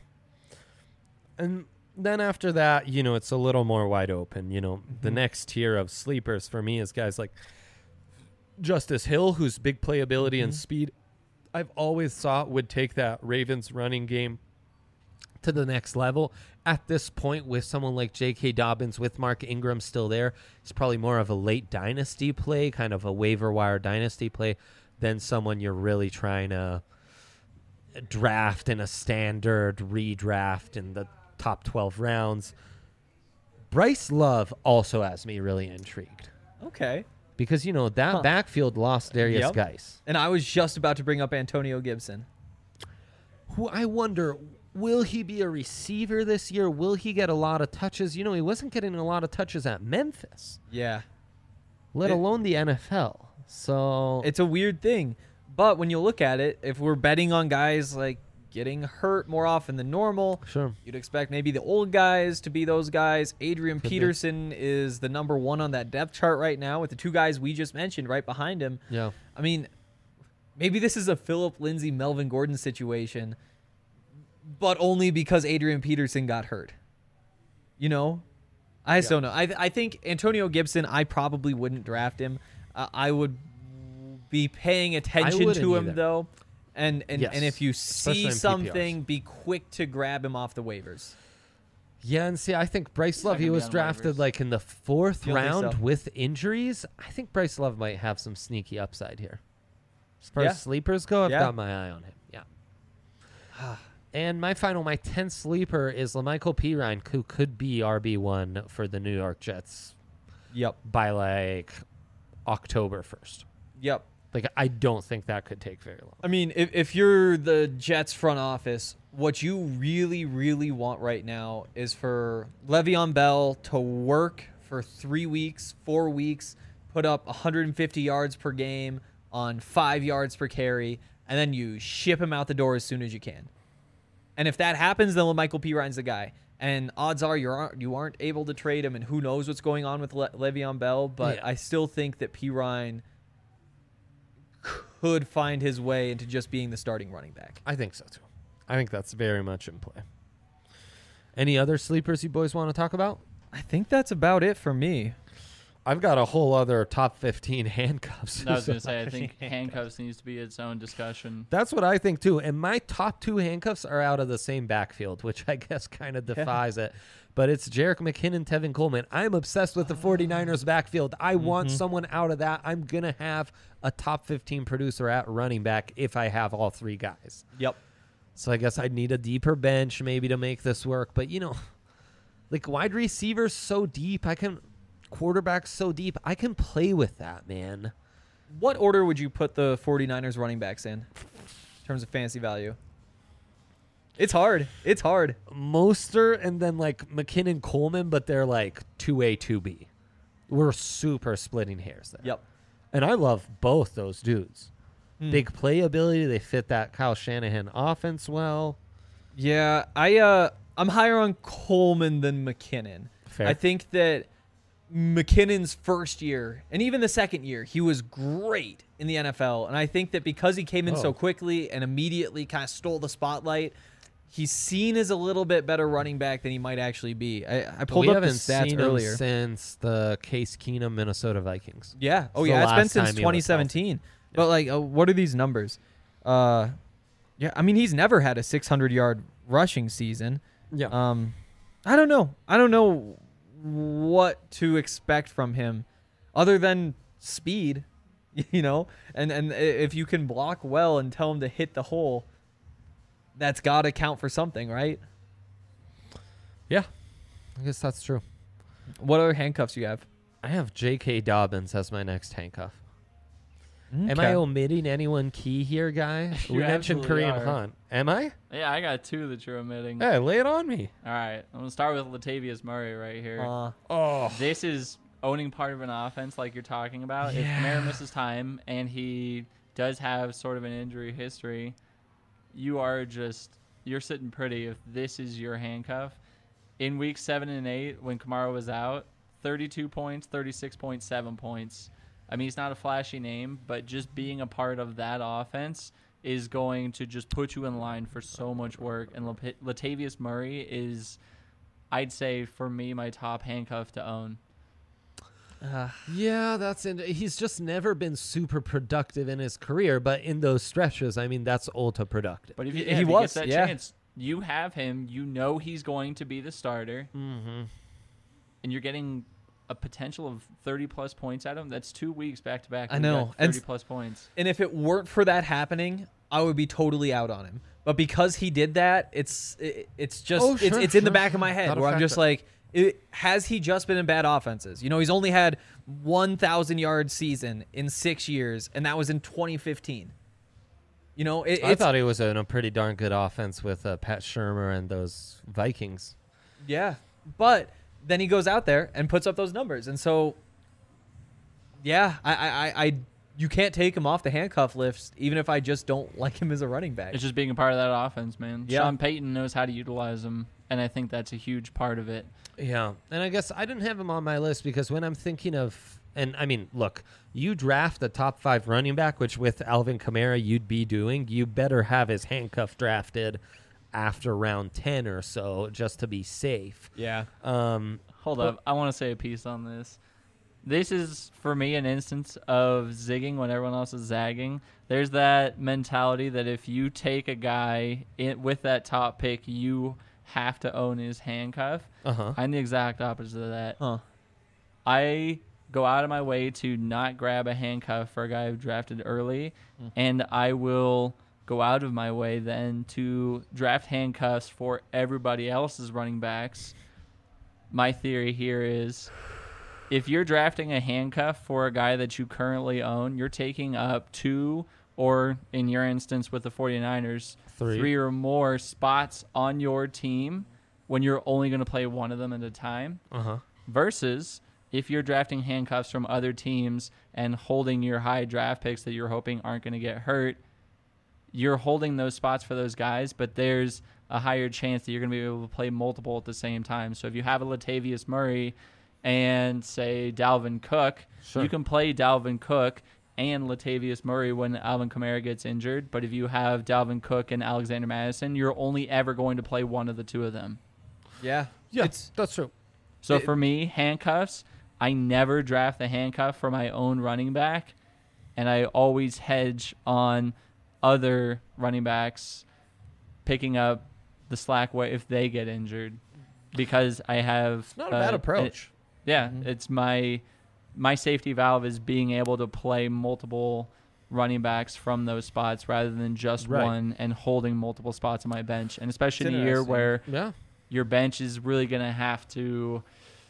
And then after that, it's a little more wide open. The next tier of sleepers for me is guys like Justice Hill, whose big playability and speed I've always thought would take that Ravens running game to the next level. At this point, with someone like J.K. Dobbins, with Mark Ingram still there, it's probably more of a late dynasty play, kind of a waiver wire dynasty play, than someone you're really trying to draft in a standard redraft in the top 12 rounds. Bryce Love also has me really intrigued. Okay. Because, that backfield lost Darius Geis. And I was just about to bring up Antonio Gibson. Who I wonder, will he be a receiver this year? Will he get a lot of touches? He wasn't getting a lot of touches at Memphis. Yeah. Let alone the NFL. So It's a weird thing. But when you look at it, if we're betting on guys like getting hurt more often than normal, sure, you'd expect maybe the old guys to be those guys. Adrian Could be. Peterson is the number one on that depth chart right now with the two guys we just mentioned right behind him. Yeah. I mean, maybe this is a Phillip Lindsay, Melvin Gordon situation, but only because Adrian Peterson got hurt. I just don't know. I think Antonio Gibson, I probably wouldn't draft him. I would be paying attention wouldn't to him either. though. And Yes, if you especially see in something, be quick to grab him off the waivers. Yeah, and see, I think Bryce He's Love, not he gonna be was on drafted waivers. like in the 4th You don't think round so? with injuries. I think Bryce Love might have some sneaky upside here. As far Yeah. as sleepers go, I've Yeah. got my eye on him. Yeah. And my 10th sleeper is LaMichael Pirine, who could be RB1 for the New York Jets Yep. by like October 1st. Yep. Like, I don't think that could take very long. I mean, if you're the Jets front office, what you really, really want right now is for Le'Veon Bell to work for 3 weeks, 4 weeks, put up 150 yards per game on 5 yards per carry, and then you ship him out the door as soon as you can. And if that happens, then Michael Pirine's the guy. And odds are you aren't able to trade him, and who knows what's going on with Le'Veon Bell, but Yeah. I still think that Pirine could find his way into just being the starting running back. I think so, too. I think that's very much in play. Any other sleepers you boys want to talk about? I think that's about it for me. I've got a whole other top 15 handcuffs. I was going to say, I think handcuffs needs to be its own discussion. That's what I think too. And my top 2 handcuffs are out of the same backfield, which I guess kind of defies it. But it's Jerick McKinnon, Tevin Coleman. I'm obsessed with the 49ers backfield. I want someone out of that. I'm going to have a top 15 producer at running back if I have all 3 guys. Yep. So I guess I'd need a deeper bench maybe to make this work. But, like wide receivers so deep, quarterbacks so deep, I can play with that, man. What order would you put the 49ers running backs in terms of fantasy value? It's hard. It's hard. Mostert and then like McKinnon, Coleman, but they're like 2A, 2B. We're super splitting hairs there. Yep. And I love both those dudes. Hmm. Big playability. They fit that Kyle Shanahan offense well. Yeah, I'm higher on Coleman than McKinnon. Fair. I think that McKinnon's first year and even the second year, he was great in the NFL. And I think that because he came in so quickly and immediately kind of stole the spotlight, he's seen as a little bit better running back than he might actually be. I pulled we up the haven't stats seen earlier. him since the Case Keenum Minnesota Vikings. Yeah. Oh, It's yeah. the It's been last since time he was 2017. But, like, what are these numbers? Yeah, I mean, he's never had a 600-yard rushing season. Yeah. I don't know. I don't know what to expect from him other than speed, and if you can block well and tell him to hit the hole, that's got to count for something, right? Yeah. I guess that's true. What other handcuffs you have? I have J.K. Dobbins as my next handcuff. Am Okay. I omitting anyone key here, guys? You We mentioned absolutely Kareem are. Hunt. Am I? Yeah, I got 2 that you're omitting. Hey, lay it on me. All right, I'm going to start with Latavius Murray right here. Oh. This is owning part of an offense like you're talking about. If Kamara misses time and he does have sort of an injury history, you're sitting pretty if this is your handcuff. In week 7 and 8, when Kamara was out, 32 points, 36.7 points. I mean, he's not a flashy name, but just being a part of that offense is going to just put you in line for so much work. And Latavius Murray is, I'd say, for me, my top handcuff to own. Yeah, he's just never been super productive in his career, but in those stretches, I mean, that's ultra productive. But if He he was, gets that yeah. chance, you have him. You know he's going to be the starter, Mm-hmm. and you're getting a potential of 30-plus points out of him. That's 2 weeks back-to-back. I where you know. got And 30-plus points. And if it weren't for that happening, I would be totally out on him. But because he did that, it's just Oh, sure, it's in the sure. back of my head Gotta where I'm just factor. like, has he just been in bad offenses? He's only had 1,000-yard season in 6 years, and that was in 2015. I thought he was in a pretty darn good offense with Pat Shurmur and those Vikings. Yeah, but then he goes out there and puts up those numbers, and so yeah, I you can't take him off the handcuff list, even if I just don't like him as a running back. It's just being a part of that offense, man. Yeah. Sean Payton knows how to utilize him, and I think that's a huge part of it. Yeah, and I guess I didn't have him on my list because when I'm thinking of, and I mean, look, you draft a top 5 running back, which with Alvin Kamara you'd be doing, you better have his handcuff drafted after round 10 or so just to be safe. Yeah. Hold up. I want to say a piece on this. This is, for me, an instance of zigging when everyone else is zagging. There's that mentality that if you take a guy with that top pick, you have to own his handcuff. Uh-huh. I'm the exact opposite of that. Huh. I go out of my way to not grab a handcuff for a guy who drafted early, and I will go out of my way then to draft handcuffs for everybody else's running backs. My theory here is if you're drafting a handcuff for a guy that you currently own, you're taking up 2, or in your instance with the 49ers, 3 or more spots on your team when you're only going to play one of them at a time. Uh-huh. Versus if you're drafting handcuffs from other teams and holding your high draft picks that you're hoping aren't going to get hurt, you're holding those spots for those guys, but there's a higher chance that you're going to be able to play multiple at the same time. So if you have a Latavius Murray and, say, Dalvin Cook, Sure. you can play Dalvin Cook and Latavius Murray when Alvin Kamara gets injured. But if you have Dalvin Cook and Alexander Madison, you're only ever going to play one of the two of them. Yeah. Yeah, It's that's true. So for me, handcuffs, I never draft the handcuff for my own running back, and I always hedge on other running backs picking up the slack if they get injured, because I have It's not a bad approach. It's my safety valve is being able to play multiple running backs from those spots rather than just Right. one, and holding multiple spots on my bench, and especially It's in a year interesting. where Yeah. your bench is really going to have to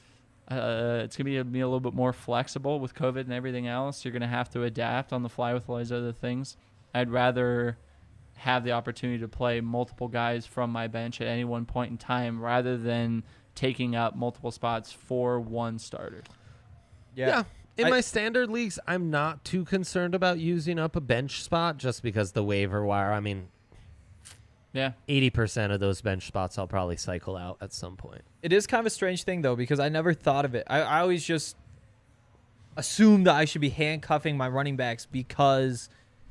it's going to be a little bit more flexible with COVID and everything else. You're going to have to adapt on the fly with all these other things. I'd rather have the opportunity to play multiple guys from my bench at any one point in time rather than taking up multiple spots for one starter. Yeah. In I- my standard leagues, I'm not too concerned about using up a bench spot just because the waiver wire, I mean, Yeah. 80% of those bench spots I'll probably cycle out at some point. It is kind of a strange thing, though, because I never thought of it. I always just assumed that I should be handcuffing my running backs because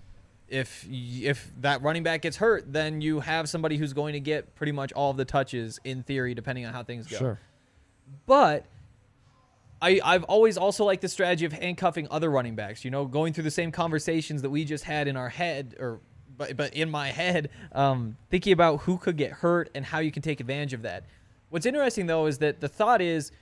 if that running back gets hurt, then you have somebody who's going to get pretty much all of the touches, in theory, depending on how things go. But I've always also liked the strategy of handcuffing other running backs, going through the same conversations that we just had in our head, but in my head, thinking about who could get hurt and how you can take advantage of that. What's interesting, though, is that the thought is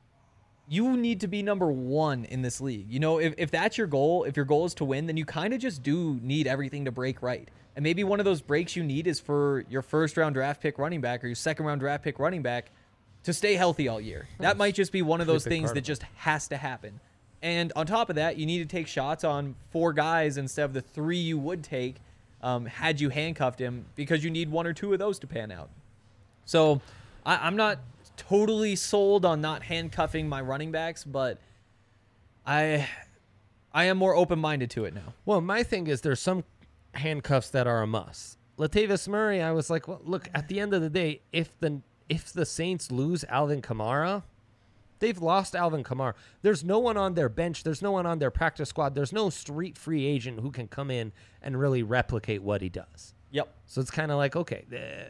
you need to be number one in this league. If that's your goal, if your goal is to win, then you kind of just do need everything to break right. And maybe one of those breaks you need is for your first-round draft pick running back or your second-round draft pick running back to stay healthy all year. That might just be one of those things that just has to happen. And on top of that, you need to take shots on 4 guys instead of the 3 you would take had you handcuffed him, because you need 1 or 2 of those to pan out. So I'm not totally sold on not handcuffing my running backs, but I am more open-minded to it now. Well, my thing is there's some handcuffs that are a must. Latavius Murray, I was like, well, look, at the end of the day, if the Saints lose Alvin Kamara, they've lost Alvin Kamara. There's no one on their bench. There's no one on their practice squad. There's no street free agent who can come in and really replicate what he does. Yep. So it's kind of like, okay,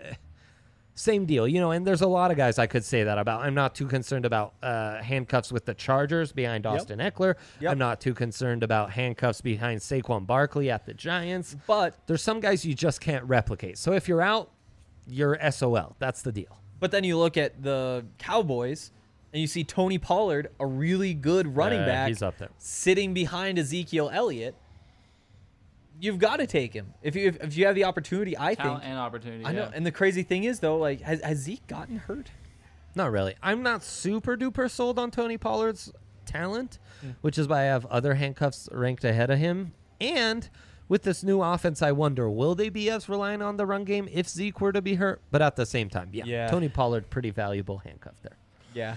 same deal, and there's a lot of guys I could say that about. I'm not too concerned about handcuffs with the Chargers behind Austin Eckler. Yep. I'm not too concerned about handcuffs behind Saquon Barkley at the Giants. But There's some guys you just can't replicate. So if you're out, you're SOL. That's the deal. then you look at the Cowboys and you see Tony Pollard, a really good running back, He's up there. sitting behind Ezekiel Elliott. You've got to take him if you have the opportunity. I Talent think. and opportunity. I know. Yeah. And the crazy thing is, though, like has Zeke gotten hurt? Not really. I'm not super duper sold on Tony Pollard's talent, which is why I have other handcuffs ranked ahead of him. And with this new offense, I wonder, will they be as reliant on the run game if Zeke were to be hurt? But at the same time, Yeah. Tony Pollard, pretty valuable handcuff there. Yeah.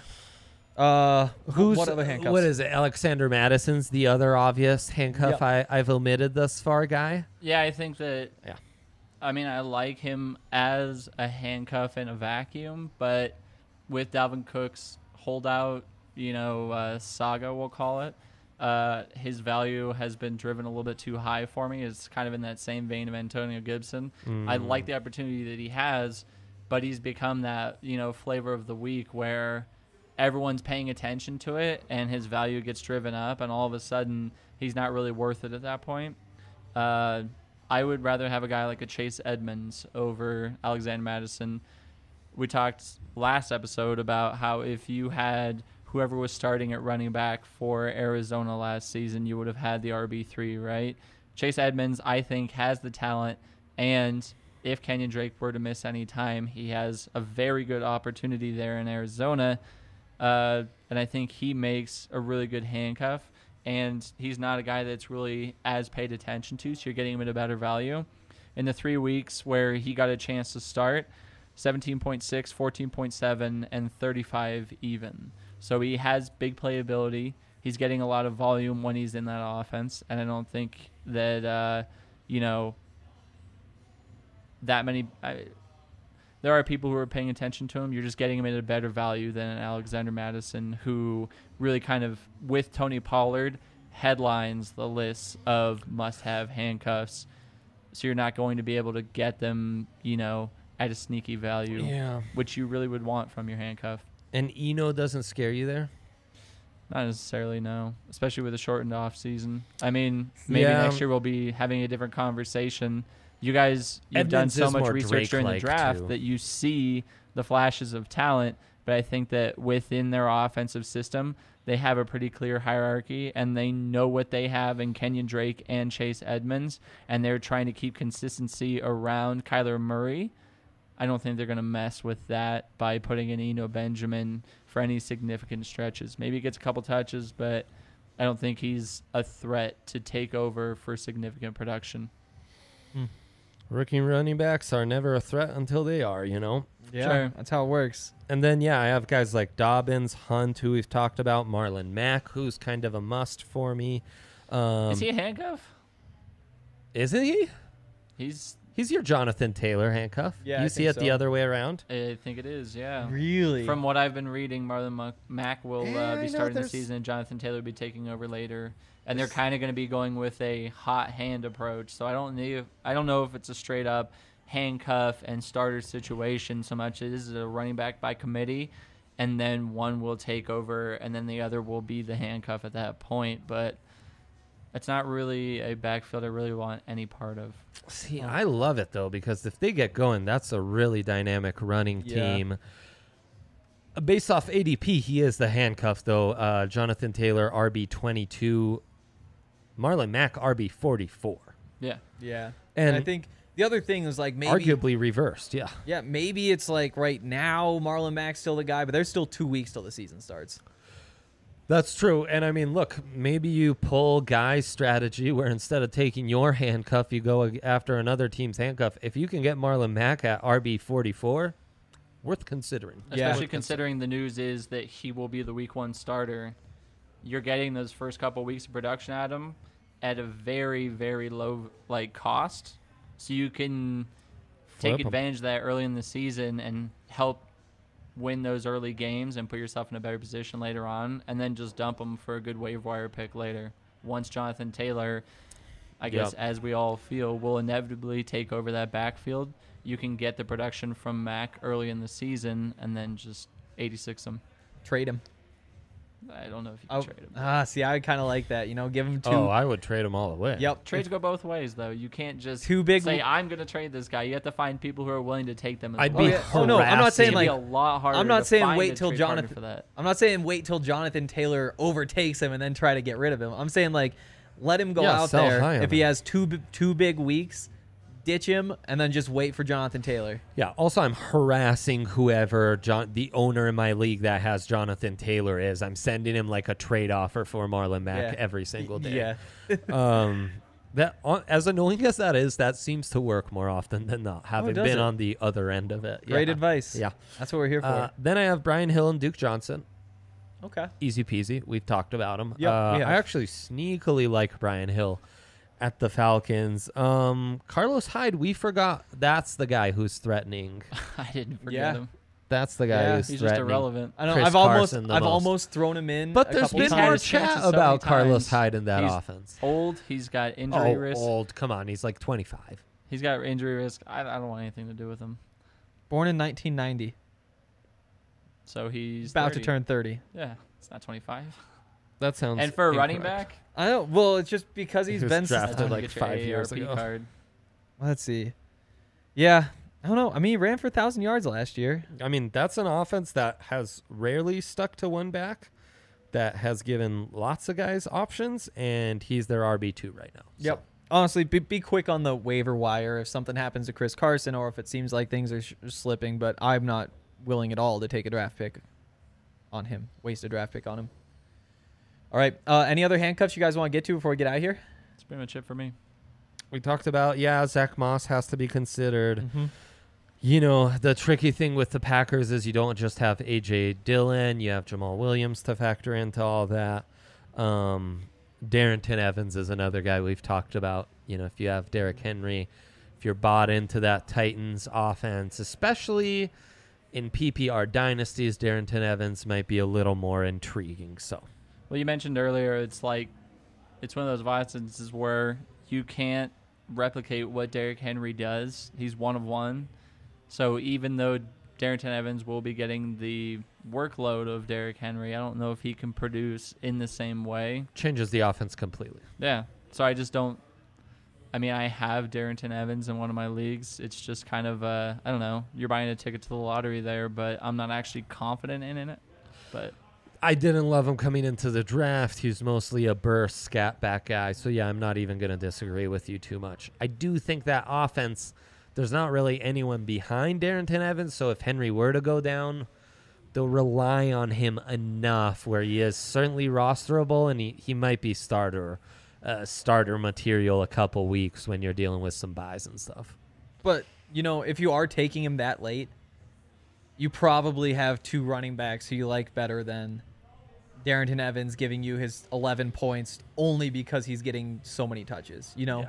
Who's what other handcuffs? What is it? Alexander Madison's the other obvious handcuff Yep. I've omitted thus far, guy. Yeah, I think that. Yeah. I mean, I like him as a handcuff in a vacuum, but with Dalvin Cook's holdout, saga, we'll call it, his value has been driven a little bit too high for me. It's kind of in that same vein of Antonio Gibson. I like the opportunity that he has, but he's become that, flavor of the week where everyone's paying attention to it and his value gets driven up, and all of a sudden he's not really worth it at that point. I would rather have a guy like a Chase Edmonds over Alexander Mattison. We talked last episode about how if you had whoever was starting at running back for Arizona last season, you would have had the RB3, right? Chase Edmonds, I think, has the talent, and if Kenyon Drake were to miss any time, he has a very good opportunity there in Arizona, and I think he makes a really good handcuff, and he's not a guy that's really as paid attention to, so you're getting him at a better value. In the 3 weeks where he got a chance to start, 17.6, 14.7, and 35 even. So he has big playability. He's getting a lot of volume when he's in that offense, and I don't think that, that many... there are people who are paying attention to him. You're just getting him at a better value than Alexander Mattison, who really kind of, with Tony Pollard, headlines the list of must-have handcuffs. So you're not going to be able to get them, at a sneaky value, which you really would want from your handcuff. And Eno doesn't scare you there? Not necessarily, no. Especially with a shortened off season. I mean, maybe next year we'll be having a different conversation. You guys, you've done so much research during the draft that you see the flashes of talent, but I think that within their offensive system, they have a pretty clear hierarchy, and they know what they have in Kenyon Drake and Chase Edmonds, and they're trying to keep consistency around Kyler Murray. I don't think they're going to mess with that by putting in Eno Benjamin for any significant stretches. Maybe he gets a couple touches, but I don't think he's a threat to take over for significant production. Rookie running backs are never a threat until they are, Yeah, Sure. that's how it works. And then, I have guys like Dobbins, Hunt, who we've talked about, Marlon Mack, who's kind of a must for me. Is he a handcuff? Isn't he? He's your Jonathan Taylor handcuff. Yeah, You I see think it the so. other way around? I think it is, yeah. Really? From what I've been reading, Marlon Mack will Yeah, I know be starting the there's- season, and Jonathan Taylor will be taking over later. And they're kind of going to be going with a hot hand approach. So I don't know if it's a straight up handcuff and starter situation so much. It is a running back by committee, and then one will take over, and then the other will be the handcuff at that point. But it's not really a backfield I really want any part of. See, I love it, though, because if they get going, that's a really dynamic running team. Based off ADP, he is the handcuff, though. Jonathan Taylor, RB22. Marlon Mack, RB44. Yeah. Yeah. And I think the other thing is like maybe arguably reversed, yeah. Yeah, maybe it's like right now Marlon Mack's still the guy, but there's still 2 weeks till the season starts. That's true. And I mean, look, maybe you pull Guy's strategy where instead of taking your handcuff, you go after another team's handcuff. If you can get Marlon Mack at RB44, worth considering. Especially considering the news is that he will be the week 1 starter. You're getting those first couple weeks of production at him at a very, very low cost. So you can take advantage of that early in the season and help win those early games and put yourself in a better position later on, and then just dump them for a good waiver wire pick later. Once Jonathan Taylor, I guess, as we all feel, will inevitably take over that backfield, you can get the production from Mack early in the season and then just 86 him. Trade him. I don't know if you can trade him. See, I kind of like that. Give him two. Oh, I would trade him all the way. Yep. Trades go both ways, though. You can't just say, I'm going to trade this guy. You have to find people who are willing to take them as I'd well. be Oh, no, I'm not saying It'd be a lot harder. I'm not to saying find wait a till trade partner Jonathan. for that. I'm not saying wait till Jonathan Taylor overtakes him and then try to get rid of him. I'm saying let him go out sell there. high on If he him. has two big weeks, ditch him and then just wait for Jonathan Taylor. Yeah. Also, I'm harassing whoever the owner in my league that has Jonathan Taylor is. I'm sending him a trade offer for Marlon Mack every single day. Yeah. That as annoying as that is, that seems to work more often than not. Having does been it? on the other end of it. Great Yeah. advice. Yeah. That's what we're here for. Then I have Brian Hill and Duke Johnson. Okay. Easy peasy. We've talked about him. Yep, we have. I actually sneakily like Brian Hill at the Falcons. Carlos Hyde, we forgot. That's the guy who's threatening. I didn't forget Yeah. him. That's the guy Yeah, who's He's just threatening. irrelevant. I know. Chris I've Carson the most. almost thrown him in. But a there's couple been He's had more his chances chat so many about Carlos times. Hyde in that He's offense. Old. He's got injury risk. Old. Come on. He's 25. He's got injury risk. I don't want anything to do with him. Born in 1990. So he's About 30. to turn 30. Yeah, it's not 25. That sounds And for a running incorrect. back, I don't. Well, it's just because He he's was been drafted that's when like you get your 5 years AARP ago. card. Let's see. Yeah, I don't know. I mean, he ran for 1,000 yards last year. I mean, that's an offense that has rarely stuck to one back, that has given lots of guys options, and he's their RB2 right now. So, Honestly, be quick on the waiver wire if something happens to Chris Carson or if it seems like things are slipping. But I'm not willing at all to take a draft pick on him. Waste a draft pick on him. All right. Any other handcuffs you guys want to get to before we get out of here? That's pretty much it for me. we talked about, Zach Moss has to be considered. Mm-hmm. You know, the tricky thing with the Packers is you don't just have A.J. Dillon. You have Jamal Williams to factor into all that. Darrington Evans is another guy we've talked about. You know, if you have Derrick Henry, if you're bought into that Titans offense, especially in PPR dynasties, Darrington Evans might be a little more intriguing. So, Well, you mentioned earlier, it's one of those instances where you can't replicate what Derrick Henry does. He's one of one. So even though Darrington Evans will be getting the workload of Derrick Henry, I don't know if he can produce in the same way. changes the offense completely. Yeah. So I just don't. I mean, I have Darrington Evans in one of my leagues. It's just kind of, I don't know. You're buying a ticket to the lottery there, but I'm not actually confident in it. But I didn't love him coming into the draft. He's mostly a burst scat back guy. So, I'm not even going to disagree with you too much. I do think that offense, there's not really anyone behind Darrington Evans. So if Henry were to go down, they'll rely on him enough where he is certainly rosterable, and he might be starter material a couple weeks when you're dealing with some buys and stuff. But, if you are taking him that late, you probably have two running backs who you like better than Darrington Evans giving you his 11 points only because he's getting so many touches, Yeah,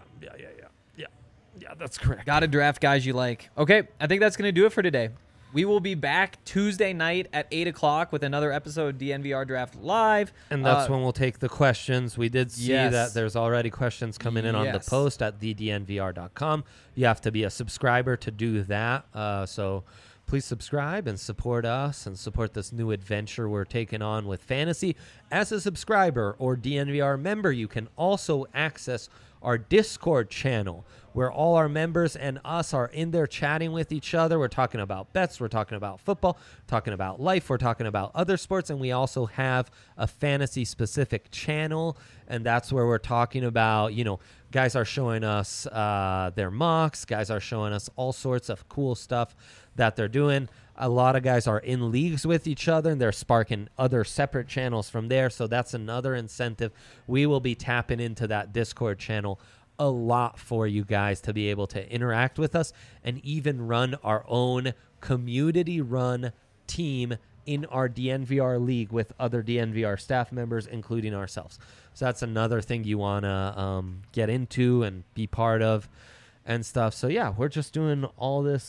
that's correct. Got to draft guys you like. Okay, I think that's going to do it for today. We will be back Tuesday night at 8 o'clock with another episode of DNVR Draft Live. And that's when we'll take the questions. We did see Yes. that there's already questions coming in on the Yes. post at thednvr.com. You have to be a subscriber to do that. So please subscribe and support us and support this new adventure we're taking on with fantasy. As a subscriber or DNVR member, you can also access our Discord channel where all our members and us are in there chatting with each other. We're talking about bets. We're talking about football, talking about life. We're talking about other sports. And we also have a fantasy-specific channel, and that's where we're talking about, guys are showing us their mocks. Guys are showing us all sorts of cool stuff that they're doing. A lot of guys are in leagues with each other, and they're sparking other separate channels from there. So that's another incentive. We will be tapping into that Discord channel a lot for you guys to be able to interact with us and even run our own community-run team in our DNVR league with other DNVR staff members, including ourselves. So that's another thing you want to get into and be part of and stuff. So, we're just doing all this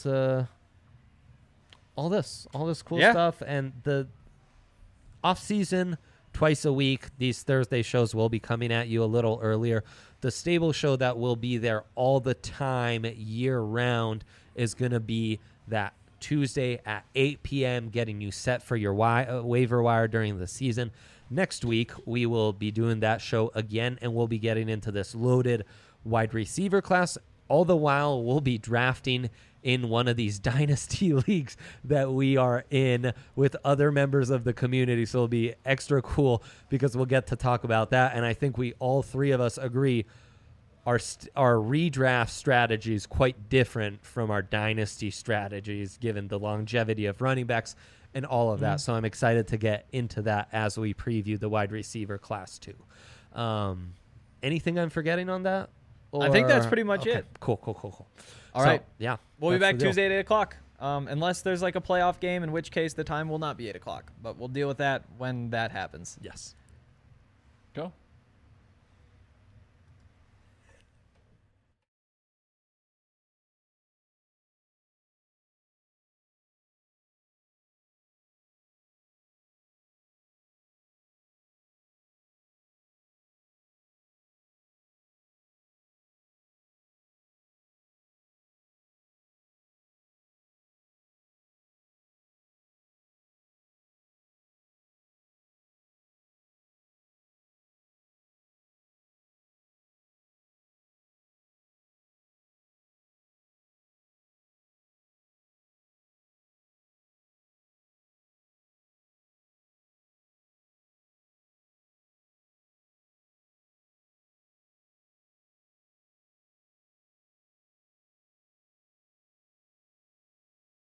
cool stuff. And the off-season, twice a week, these Thursday shows will be coming at you a little earlier. The stable show that will be there all the time, year-round, is going to be that Tuesday at 8 p.m., getting you set for your waiver wire during the season. Next week, we will be doing that show again, and we'll be getting into this loaded wide receiver class. All the while, we'll be drafting in one of these dynasty leagues that we are in with other members of the community. So it'll be extra cool because we'll get to talk about that. And I think we all three of us agree our redraft strategy is quite different from our dynasty strategies, given the longevity of running backs and all of that. So I'm excited to get into that as we preview the wide receiver class too. Anything I'm forgetting on that? I think that's pretty much it. Cool. All right. Yeah. We'll be that's back the deal. Tuesday at 8 o'clock. Unless there's like a playoff game, in which case the time will not be 8 o'clock. But we'll deal with that when that happens. Yes. go.